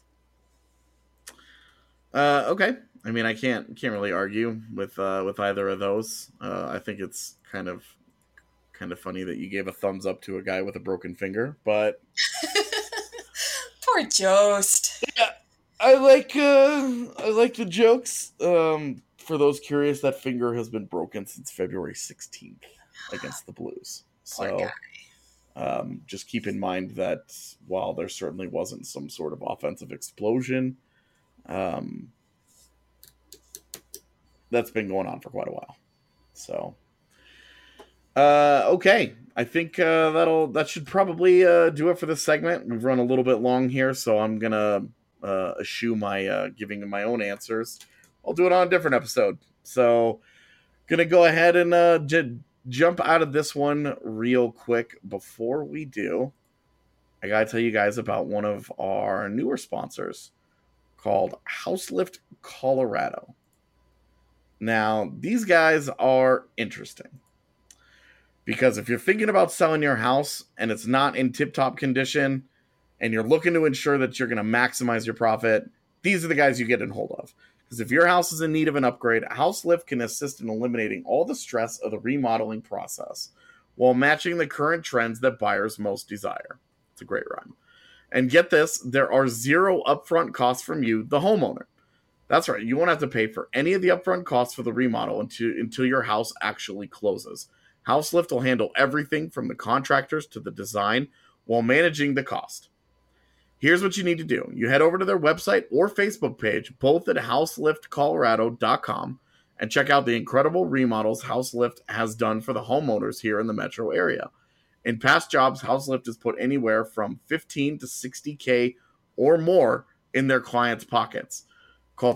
Okay. I mean, I can't really argue with either of those. I think it's kind of funny that you gave a thumbs up to a guy with a broken finger, but Poor Jost. yeah, I like the jokes. For those curious, that finger has been broken since February 16th against the Blues. Poor So, just keep in mind that while there certainly wasn't some sort of offensive explosion, that's been going on for quite a while. So, okay. I think that should probably do it for this segment. We've run a little bit long here, so I'm gonna eschew my giving my own answers. I'll do it on a different episode. So, gonna go ahead and jump out of this one real quick. Before we do, I gotta tell you guys about one of our newer sponsors called Houselift Colorado. Now, these guys are interesting. Because if you're thinking about selling your house and it's not in tip-top condition and you're looking to ensure that you're going to maximize your profit, these are the guys you get in hold of. Because if your house is in need of an upgrade, Houselift can assist in eliminating all the stress of the remodeling process while matching the current trends that buyers most desire. It's a great rhyme. And get this, there are zero upfront costs from you, the homeowner. That's right, you won't have to pay for any of the upfront costs for the remodel until your house actually closes. Houselift will handle everything from the contractors to the design while managing the cost. Here's what you need to do. You head over to their website or Facebook page, both at houseliftcolorado.com, and check out the incredible remodels Houselift has done for the homeowners here in the metro area. In past jobs, Houselift has put anywhere from $15,000 to $60,000 or more in their clients' pockets. Call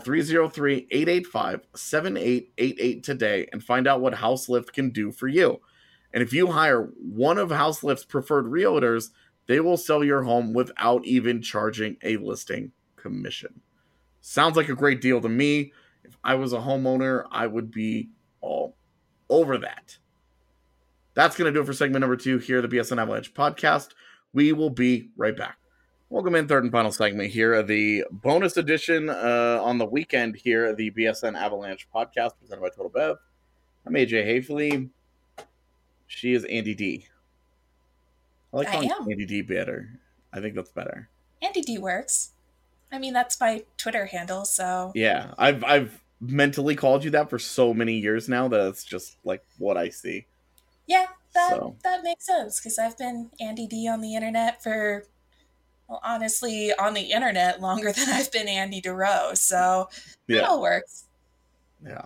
303-885-7888 today and find out what Houselift can do for you. And if you hire one of Houselift's preferred realtors, they will sell your home without even charging a listing commission. Sounds like a great deal to me. If I was a homeowner, I would be all over that. That's going to do it for segment number 2 here at the BSN Avalanche podcast. We will be right back. Welcome in, third and final segment here of the bonus edition on the weekend here at the BSN Avalanche podcast presented by Total Bev. I'm AJ Hafley. She is Andy D. I like calling Andy D better. I think that's better. Andy D works. I mean, that's my Twitter handle, so... Yeah, I've mentally called you that for so many years now that it's just like what I see. Yeah, that makes sense, because I've been Andy D on the internet for... Well, honestly, on the internet longer than I've been Andy DeRoe, so it all works. Yeah.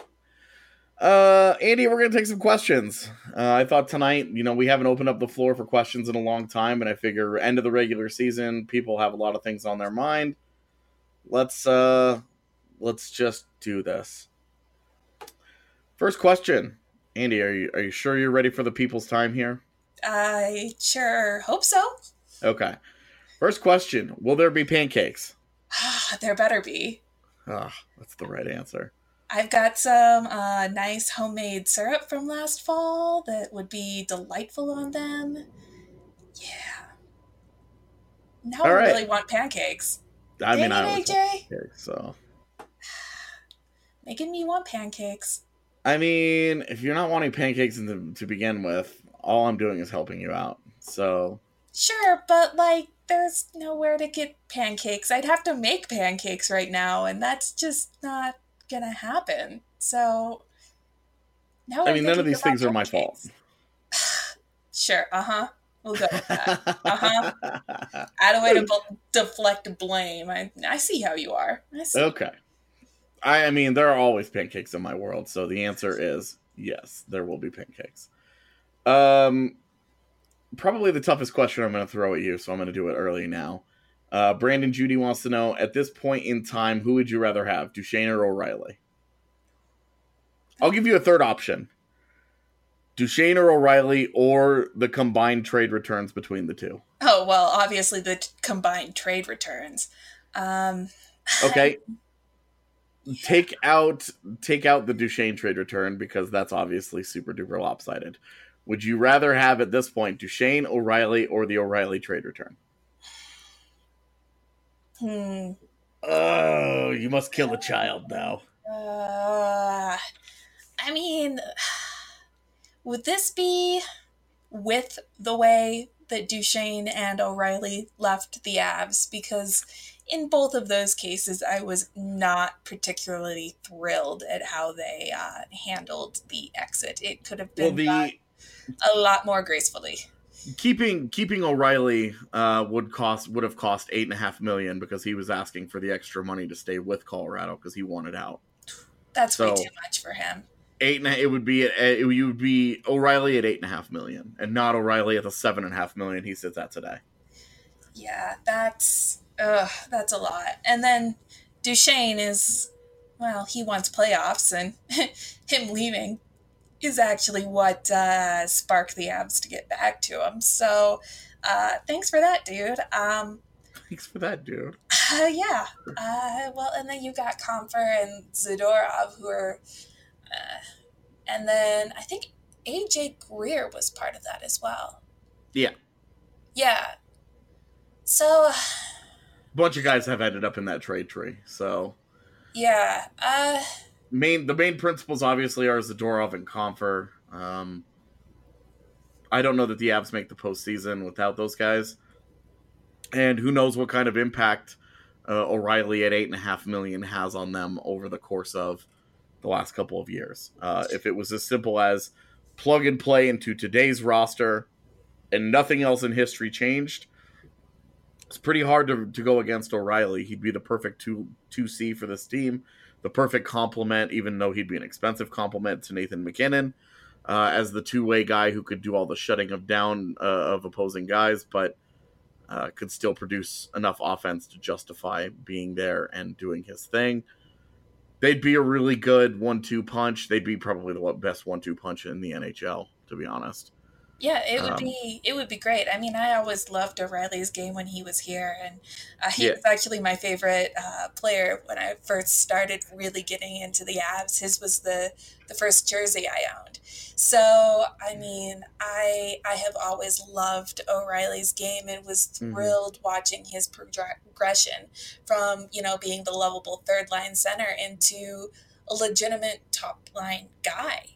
Andy, we're going to take some questions. I thought tonight, we haven't opened up the floor for questions in a long time, and I figure end of the regular season, people have a lot of things on their mind. Let's just do this. First question. Andy, are you sure you're ready for the people's time here? I sure hope so. Okay. First question, will there be pancakes? There better be. That's the right answer. I've got some nice homemade syrup from last fall that would be delightful on them. Yeah. Now I really want pancakes. I mean, I always want pancakes, so. Making me want pancakes. I mean, if you're not wanting pancakes to begin with, all I'm doing is helping you out, so. Sure, but, there's nowhere to get pancakes. I'd have to make pancakes right now, and that's just not gonna happen. So, now none of these things are my fault. Sure, we'll go with that. Add a way to deflect blame. I see how you are. I see. Okay. I mean, there are always pancakes in my world, so the answer is yes, there will be pancakes. Probably the toughest question I'm going to throw at you, so I'm going to do it early now. Brandon Judy wants to know, at this point in time, who would you rather have, Duchene or O'Reilly? I'll give you a third option. Duchesne or O'Reilly, or the combined trade returns between the two. Oh, well, obviously the combined trade returns. Okay. Take out the Duchesne trade return, because that's obviously super duper lopsided. Would you rather have at this point Duchesne, O'Reilly, or the O'Reilly trade return? Oh, you must kill a child now. I mean, would this be with the way that Duchesne and O'Reilly left the Avs? Because in both of those cases, I was not particularly thrilled at how they handled the exit. It could have been done a lot more gracefully. Keeping O'Reilly would have cost $8.5 million, because he was asking for the extra money to stay with Colorado because he wanted out. That's way too much for him. It would be O'Reilly at $8.5 million, and not O'Reilly at the $7.5 million he sits at today. Yeah, that's a lot. And then Duchesne is, well, he wants playoffs, and him leaving is actually what sparked the Avs to get back to him. So thanks for that, dude. Thanks for that, dude. Yeah. Well, and then you got Compher and Zadorov, who are... and then I think AJ Greer was part of that as well. Yeah. Yeah. So... bunch of guys have ended up in that trade tree, so... yeah. The main principles obviously are Zadorov and Compher. I don't know that the Avs make the postseason without those guys. And who knows what kind of impact O'Reilly at $8.5 million has on them over the course of the last couple of years. If it was as simple as plug and play into today's roster and nothing else in history changed, it's pretty hard to go against O'Reilly. He'd be the perfect 2C for this team, the perfect complement, even though he'd be an expensive complement to Nathan MacKinnon as the two-way guy who could do all the shutting down of opposing guys, but could still produce enough offense to justify being there and doing his thing. They'd be a really good 1-2 punch. They'd be probably the best 1-2 punch in the NHL, to be honest. Yeah, it would be great. I mean, I always loved O'Reilly's game when he was here, and he was actually my favorite player when I first started really getting into the Avs. His was the first jersey I owned. So, I mean, I have always loved O'Reilly's game and was thrilled watching his progression from, being the lovable third line center into a legitimate top line guy.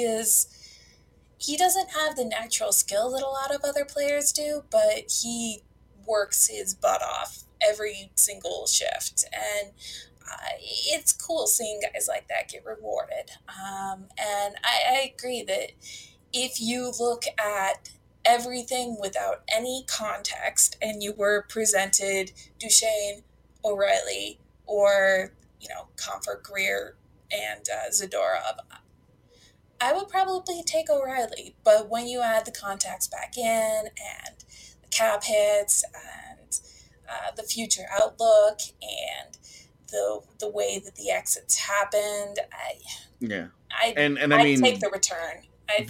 He doesn't have the natural skill that a lot of other players do, but he works his butt off every single shift. And it's cool seeing guys like that get rewarded. And I agree that if you look at everything without any context and you were presented Duchesne, O'Reilly, or, Compher, Greer, and Zadorov, I would probably take O'Reilly, but when you add the contacts back in and the cap hits and the future outlook and the way that the exits happened, I'd take the return.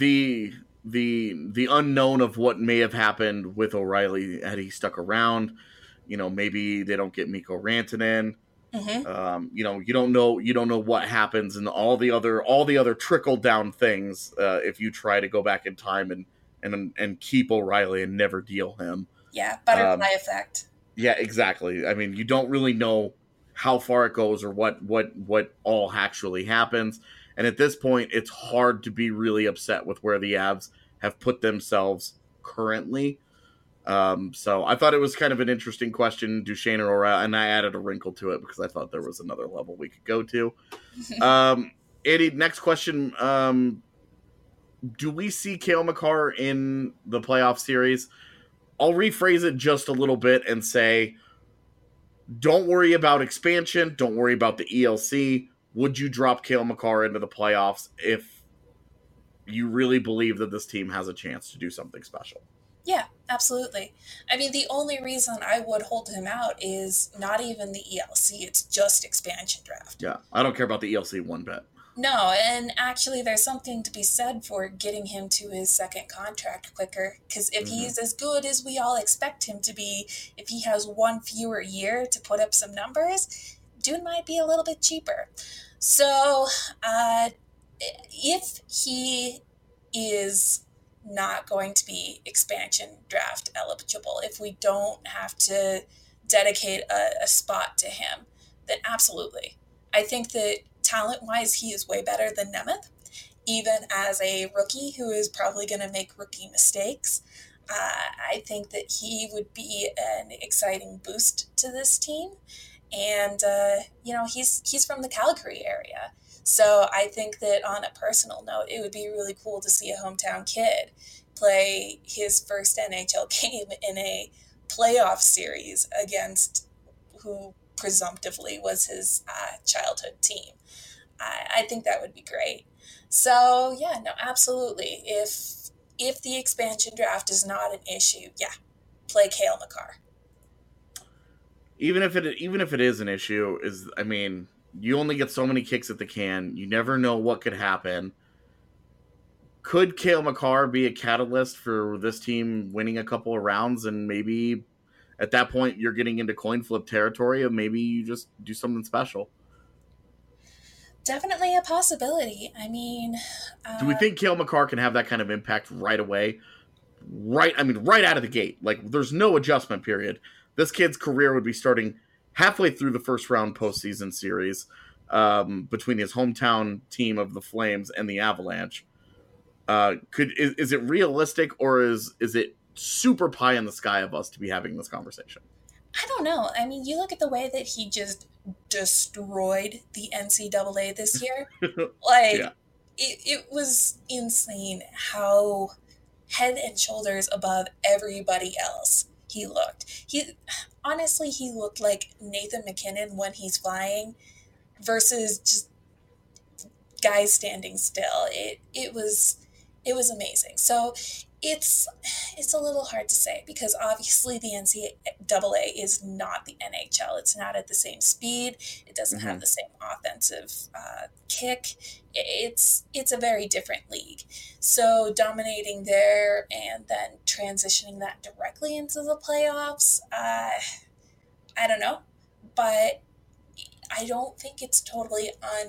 The unknown of what may have happened with O'Reilly had he stuck around. Maybe they don't get Mikko Rantanen. You don't know what happens and all the other trickle down things if you try to go back in time and keep O'Reilly and never deal him. Yeah, butterfly effect. Yeah, exactly. I mean, you don't really know how far it goes or what all actually happens. And at this point, it's hard to be really upset with where the Avs have put themselves currently. So I thought it was kind of an interesting question, Duchesne or O'Reilly, and I added a wrinkle to it because I thought there was another level we could go to. Eddie, next question. Do we see Cale Makar in the playoff series? I'll rephrase it just a little bit and say, don't worry about expansion. Don't worry about the ELC. Would you drop Cale Makar into the playoffs if you really believe that this team has a chance to do something special? Yeah, absolutely. I mean, the only reason I would hold him out is not even the ELC. It's just expansion draft. Yeah, I don't care about the ELC one bit. No, and actually, there's something to be said for getting him to his second contract quicker. Because if Hmm. he's as good as we all expect him to be, if he has one fewer year to put up some numbers, dude might be a little bit cheaper. So, if he is not going to be expansion draft eligible, if we don't have to dedicate a spot to him, then absolutely. I think that talent wise, he is way better than Nemeth, even as a rookie who is probably going to make rookie mistakes. I think that he would be an exciting boost to this team. And, he's from the Calgary area. So I think that on a personal note, it would be really cool to see a hometown kid play his first NHL game in a playoff series against who presumptively was his childhood team. I think that would be great. So yeah, no, absolutely. If the expansion draft is not an issue, yeah, play Cale Makar. Even if it is an issue, you only get so many kicks at the can. You never know what could happen. Could Cale Makar be a catalyst for this team winning a couple of rounds, and maybe at that point you're getting into coin flip territory, of maybe you just do something special? Definitely a possibility. Do we think Cale Makar can have that kind of impact right away? Right out of the gate. Like, there's no adjustment period. This kid's career would be starting halfway through the first round postseason series, between his hometown team of the Flames and the Avalanche. Is it realistic, or is it super pie in the sky of us to be having this conversation? I don't know. You look at the way that he just destroyed the NCAA this year. Like, Yeah. it was insane how head and shoulders above everybody else he looked. He looked like Nathan McKinnon when he's flying versus just guys standing still. It was amazing. So it's a little hard to say because obviously the NCAA is not the NHL. It's not at the same speed. It doesn't have the same offensive kick. It's a very different league. So dominating there and then transitioning that directly into the playoffs, I don't know, but I don't think it's totally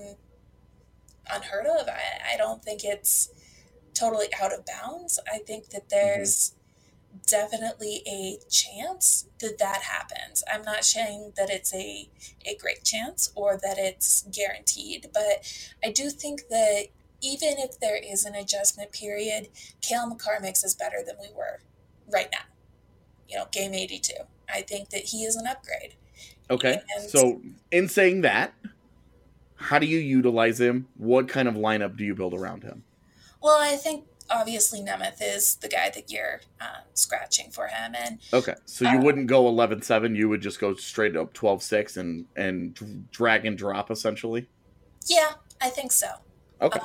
unheard of. I don't think it's totally out of bounds. I think that there's definitely a chance that that happens. I'm not saying that it's a great chance or that it's guaranteed, but I do think that even if there is an adjustment period, Cale Makar makes us better than we were right now. Game 82. I think that he is an upgrade. Okay. And So, in saying that, how do you utilize him? What kind of lineup do you build around him? well, I think obviously Nemeth is the guy that you're scratching for him, and Okay, so you wouldn't go 11-7. You would just go straight up 12-6 and drag and drop, essentially? yeah, I think so. Okay.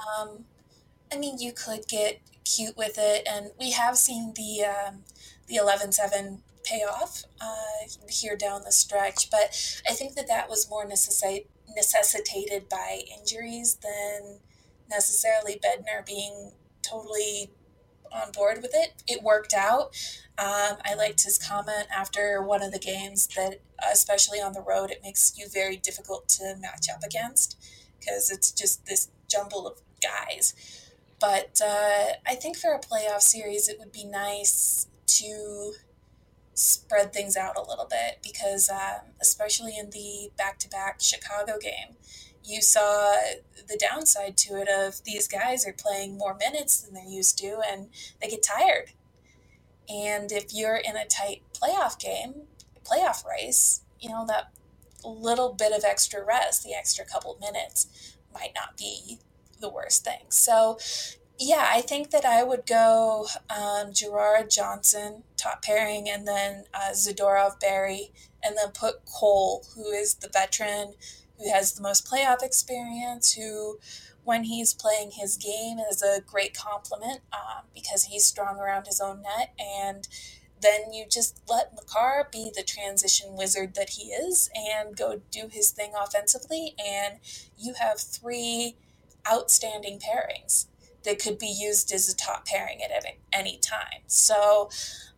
You could get cute with it, and we have seen the 11-7 payoff here down the stretch, but I think that was more necessitated by injuries than necessarily Bednar being totally on board with it. It worked out. I liked his comment after one of the games that, especially on the road, it makes you very difficult to match up against because it's just this jumble of guys. But I think for a playoff series, it would be nice to spread things out a little bit because, especially in the back-to-back Chicago game, you saw the downside to it of these guys are playing more minutes than they're used to and they get tired. And if you're in a tight playoff race, that little bit of extra rest, the extra couple minutes, might not be the worst thing. So, yeah, I think that I would go Gerard Johnson, top pairing, and then Zadorov Barry, and then put Cole, who is the veteran, who has the most playoff experience, who, when he's playing his game, is a great compliment because he's strong around his own net. And then you just let Makar be the transition wizard that he is and go do his thing offensively. And you have three outstanding pairings that could be used as a top pairing at any time. So,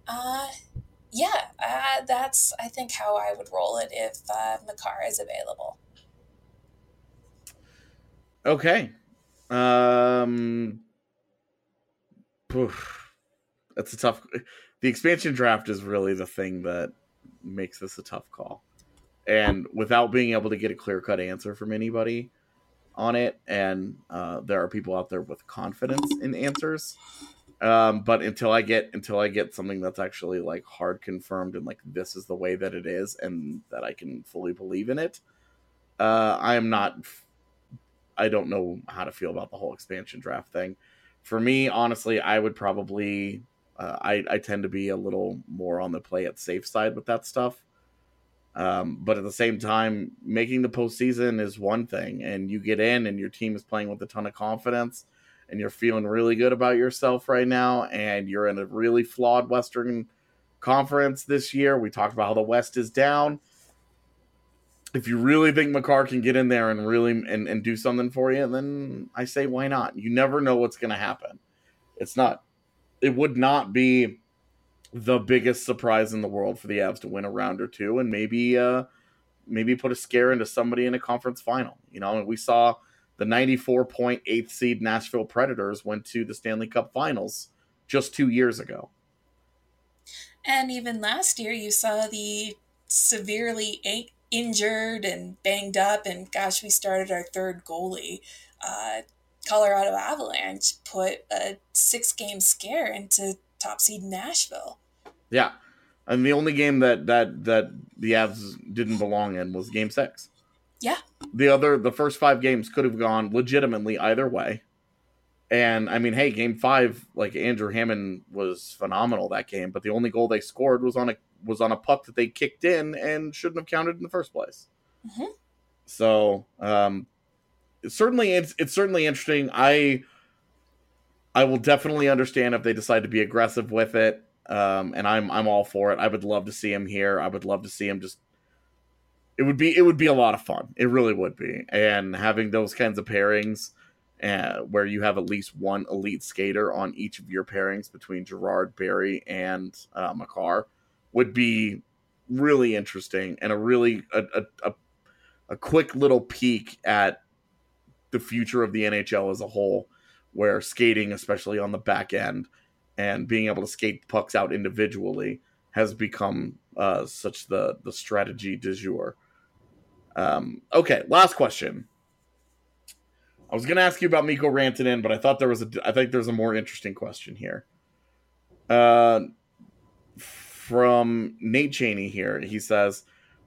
that's, I think, how I would roll it if Makar is available. Okay. That's a tough. The expansion draft is really the thing that makes this a tough call. And without being able to get a clear-cut answer from anybody on it, and there are people out there with confidence in answers, but until I get something that's actually like hard confirmed and like this is the way that it is and that I can fully believe in it, I don't know how to feel about the whole expansion draft thing. For me, honestly, I would probably I tend to be a little more on the play it safe side with that stuff. But at the same time, making the postseason is one thing, and you get in and your team is playing with a ton of confidence and you're feeling really good about yourself right now, and you're in a really flawed Western Conference this year. We talked about how the West is down. If you really think Makar can get in there and really and do something for you, then I say why not? You never know what's going to happen. It would not be the biggest surprise in the world for the Avs to win a round or two and maybe put a scare into somebody in a conference final. You know, we saw the 94.8th seed Nashville Predators went to the Stanley Cup Finals just 2 years ago. And even last year, you saw the severely injured and banged up, and gosh, we started our third goalie. Colorado Avalanche put a 6-game scare into top seed Nashville. Yeah, and the only game that the Avs didn't belong in was Game 6. Yeah. The first 5 games could have gone legitimately either way. And I mean, hey, Game 5, like Andrew Hammond was phenomenal that game, but the only goal they scored was on a puck that they kicked in and shouldn't have counted in the first place. Mm-hmm. So it's certainly interesting. I will definitely understand if they decide to be aggressive with it, and I'm all for it. I would love to see him here. I would love to see him just. It would be a lot of fun. It really would be, and having those kinds of pairings, where you have at least one elite skater on each of your pairings between Girard, Barrie, and Makar, would be really interesting and a really a quick little peek at the future of the NHL as a whole, where skating, especially on the back end, and being able to skate pucks out individually has become such the strategy du jour. Okay, last question. I was going to ask you about Mikko Rantanen, but I thought I think there's a more interesting question here. From Nate Cheney here, he says,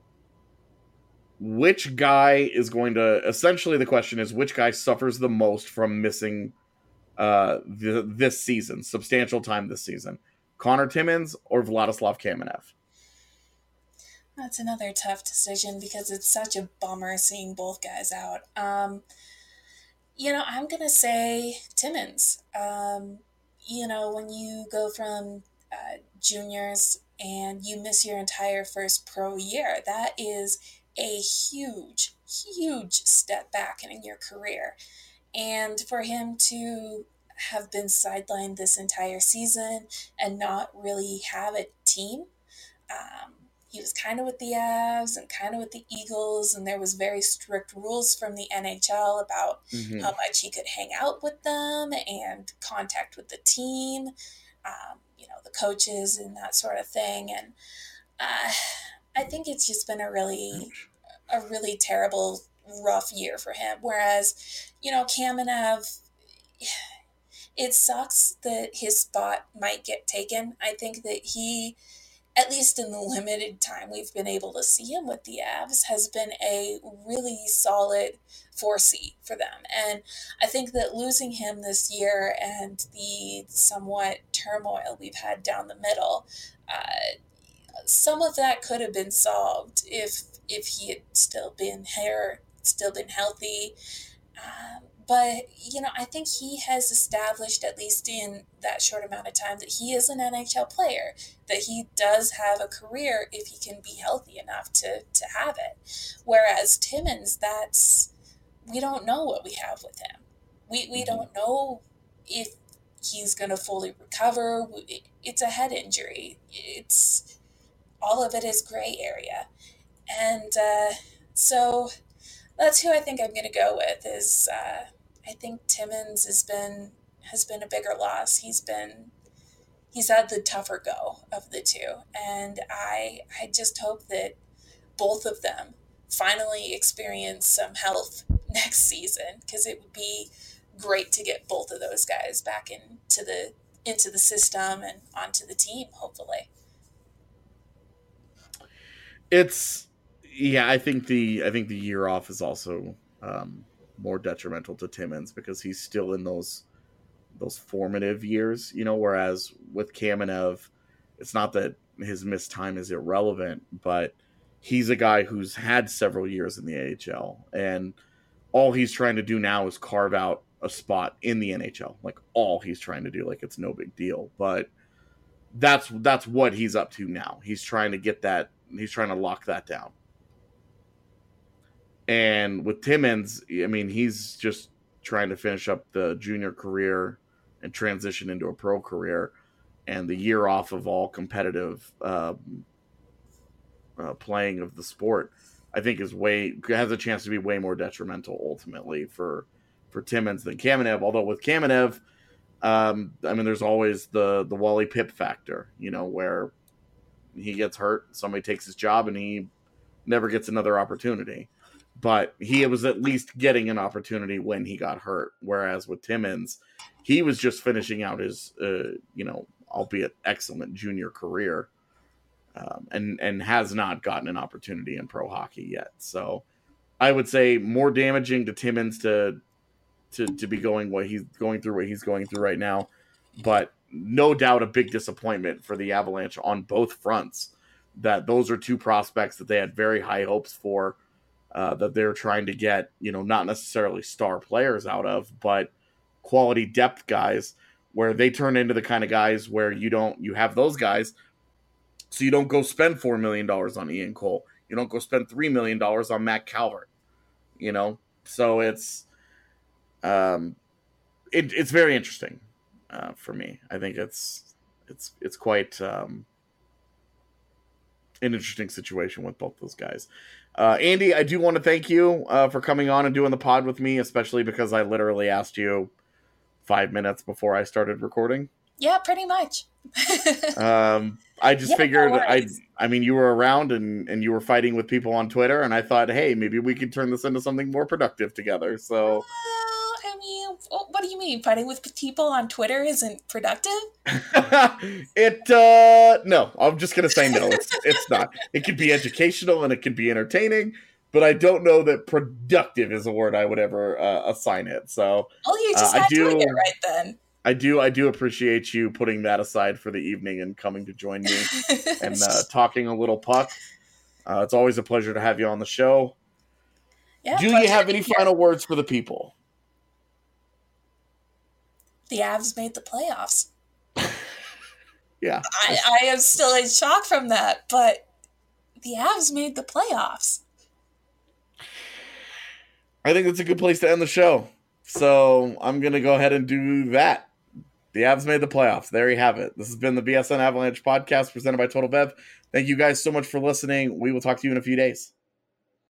which guy is going to, essentially the question is, which guy suffers the most from missing this season, substantial time this season? Connor Timmins or Vladislav Kamenev? That's another tough decision because it's such a bummer seeing both guys out. I'm going to say Timmins. When you go from juniors and you miss your entire first pro year, that is a huge, huge step back in your career. And for him to have been sidelined this entire season and not really have a team, he was kind of with the Avs and kind of with the Eagles, and there was very strict rules from the NHL about how much he could hang out with them and contact with the team, the coaches and that sort of thing. And I think it's just been a really terrible, rough year for him. Whereas, Kamenev, it sucks that his spot might get taken. I think that he, at least in the limited time we've been able to see him with the Avs, has been a really solid 4C for them. And I think that losing him this year and the somewhat turmoil we've had down the middle, some of that could have been solved if he had still been here, still been healthy. But, I think he has established, at least in that short amount of time, that he is an NHL player, that he does have a career if he can be healthy enough to have it. Whereas Timmins, we don't know what we have with him. We don't know if he's going to fully recover. It's a head injury. It's all of it is gray area. And so that's who I think I'm going to go with. Is I think Timmins has been a bigger loss. He's had the tougher go of the two, and I just hope that both of them finally experience some health next season, because it would be great to get both of those guys back into the system and onto the team, hopefully. I think the year off is also more detrimental to Timmins because he's still in those formative years, whereas with Kamenev, it's not that his missed time is irrelevant, but he's a guy who's had several years in the AHL, and all he's trying to do now is carve out a spot in the NHL. Like, all he's trying to do, like, it's no big deal, but that's what he's up to now. He's trying to get that, he's trying to lock that down. And with Timmins, I mean, he's just trying to finish up the junior career and transition into a pro career, and the year off of all competitive playing of the sport, I think has a chance to be way more detrimental ultimately for Timmins than Kamenev. Although with Kamenev, I mean, there's always the Wally Pipp factor, where he gets hurt, somebody takes his job, and he never gets another opportunity. But he was at least getting an opportunity when he got hurt. Whereas with Timmins, he was just finishing out his, albeit excellent junior career, and has not gotten an opportunity in pro hockey yet. So I would say more damaging to Timmins to be going through what he's going through right now. But no doubt a big disappointment for the Avalanche on both fronts, that those are two prospects that they had very high hopes for, that they're trying to get, not necessarily star players out of, but quality depth guys, where they turn into the kind of guys where you have those guys, so you don't go spend $4 million on Ian Cole. You don't go spend $3 million on Matt Calvert, So it's very interesting for me. I think it's quite an interesting situation with both those guys. Andy, I do want to thank you for coming on and doing the pod with me, especially because I literally asked you 5 minutes before I started recording. Yeah, pretty much. I just figured, I mean, you were around and you were fighting with people on Twitter, and I thought, hey, maybe we could turn this into something more productive together. So, I mean, what do you mean? Fighting with people on Twitter isn't productive? No, I'm just going to say no. It's not. It could be educational and it could be entertaining, but I don't know that productive is a word I would ever assign it. So, well, you just had doing it right then. I do appreciate you putting that aside for the evening and coming to join me and talking a little puck. It's always a pleasure to have you on the show. Yeah, do you have any final words for the people? The Avs made the playoffs. Yeah. I am still in shock from that, but the Avs made the playoffs. I think that's a good place to end the show. So I'm going to go ahead and do that. The Avs made the playoffs. There you have it. This has been the BSN Avalanche podcast presented by Total Bev. Thank you guys so much for listening. We will talk to you in a few days.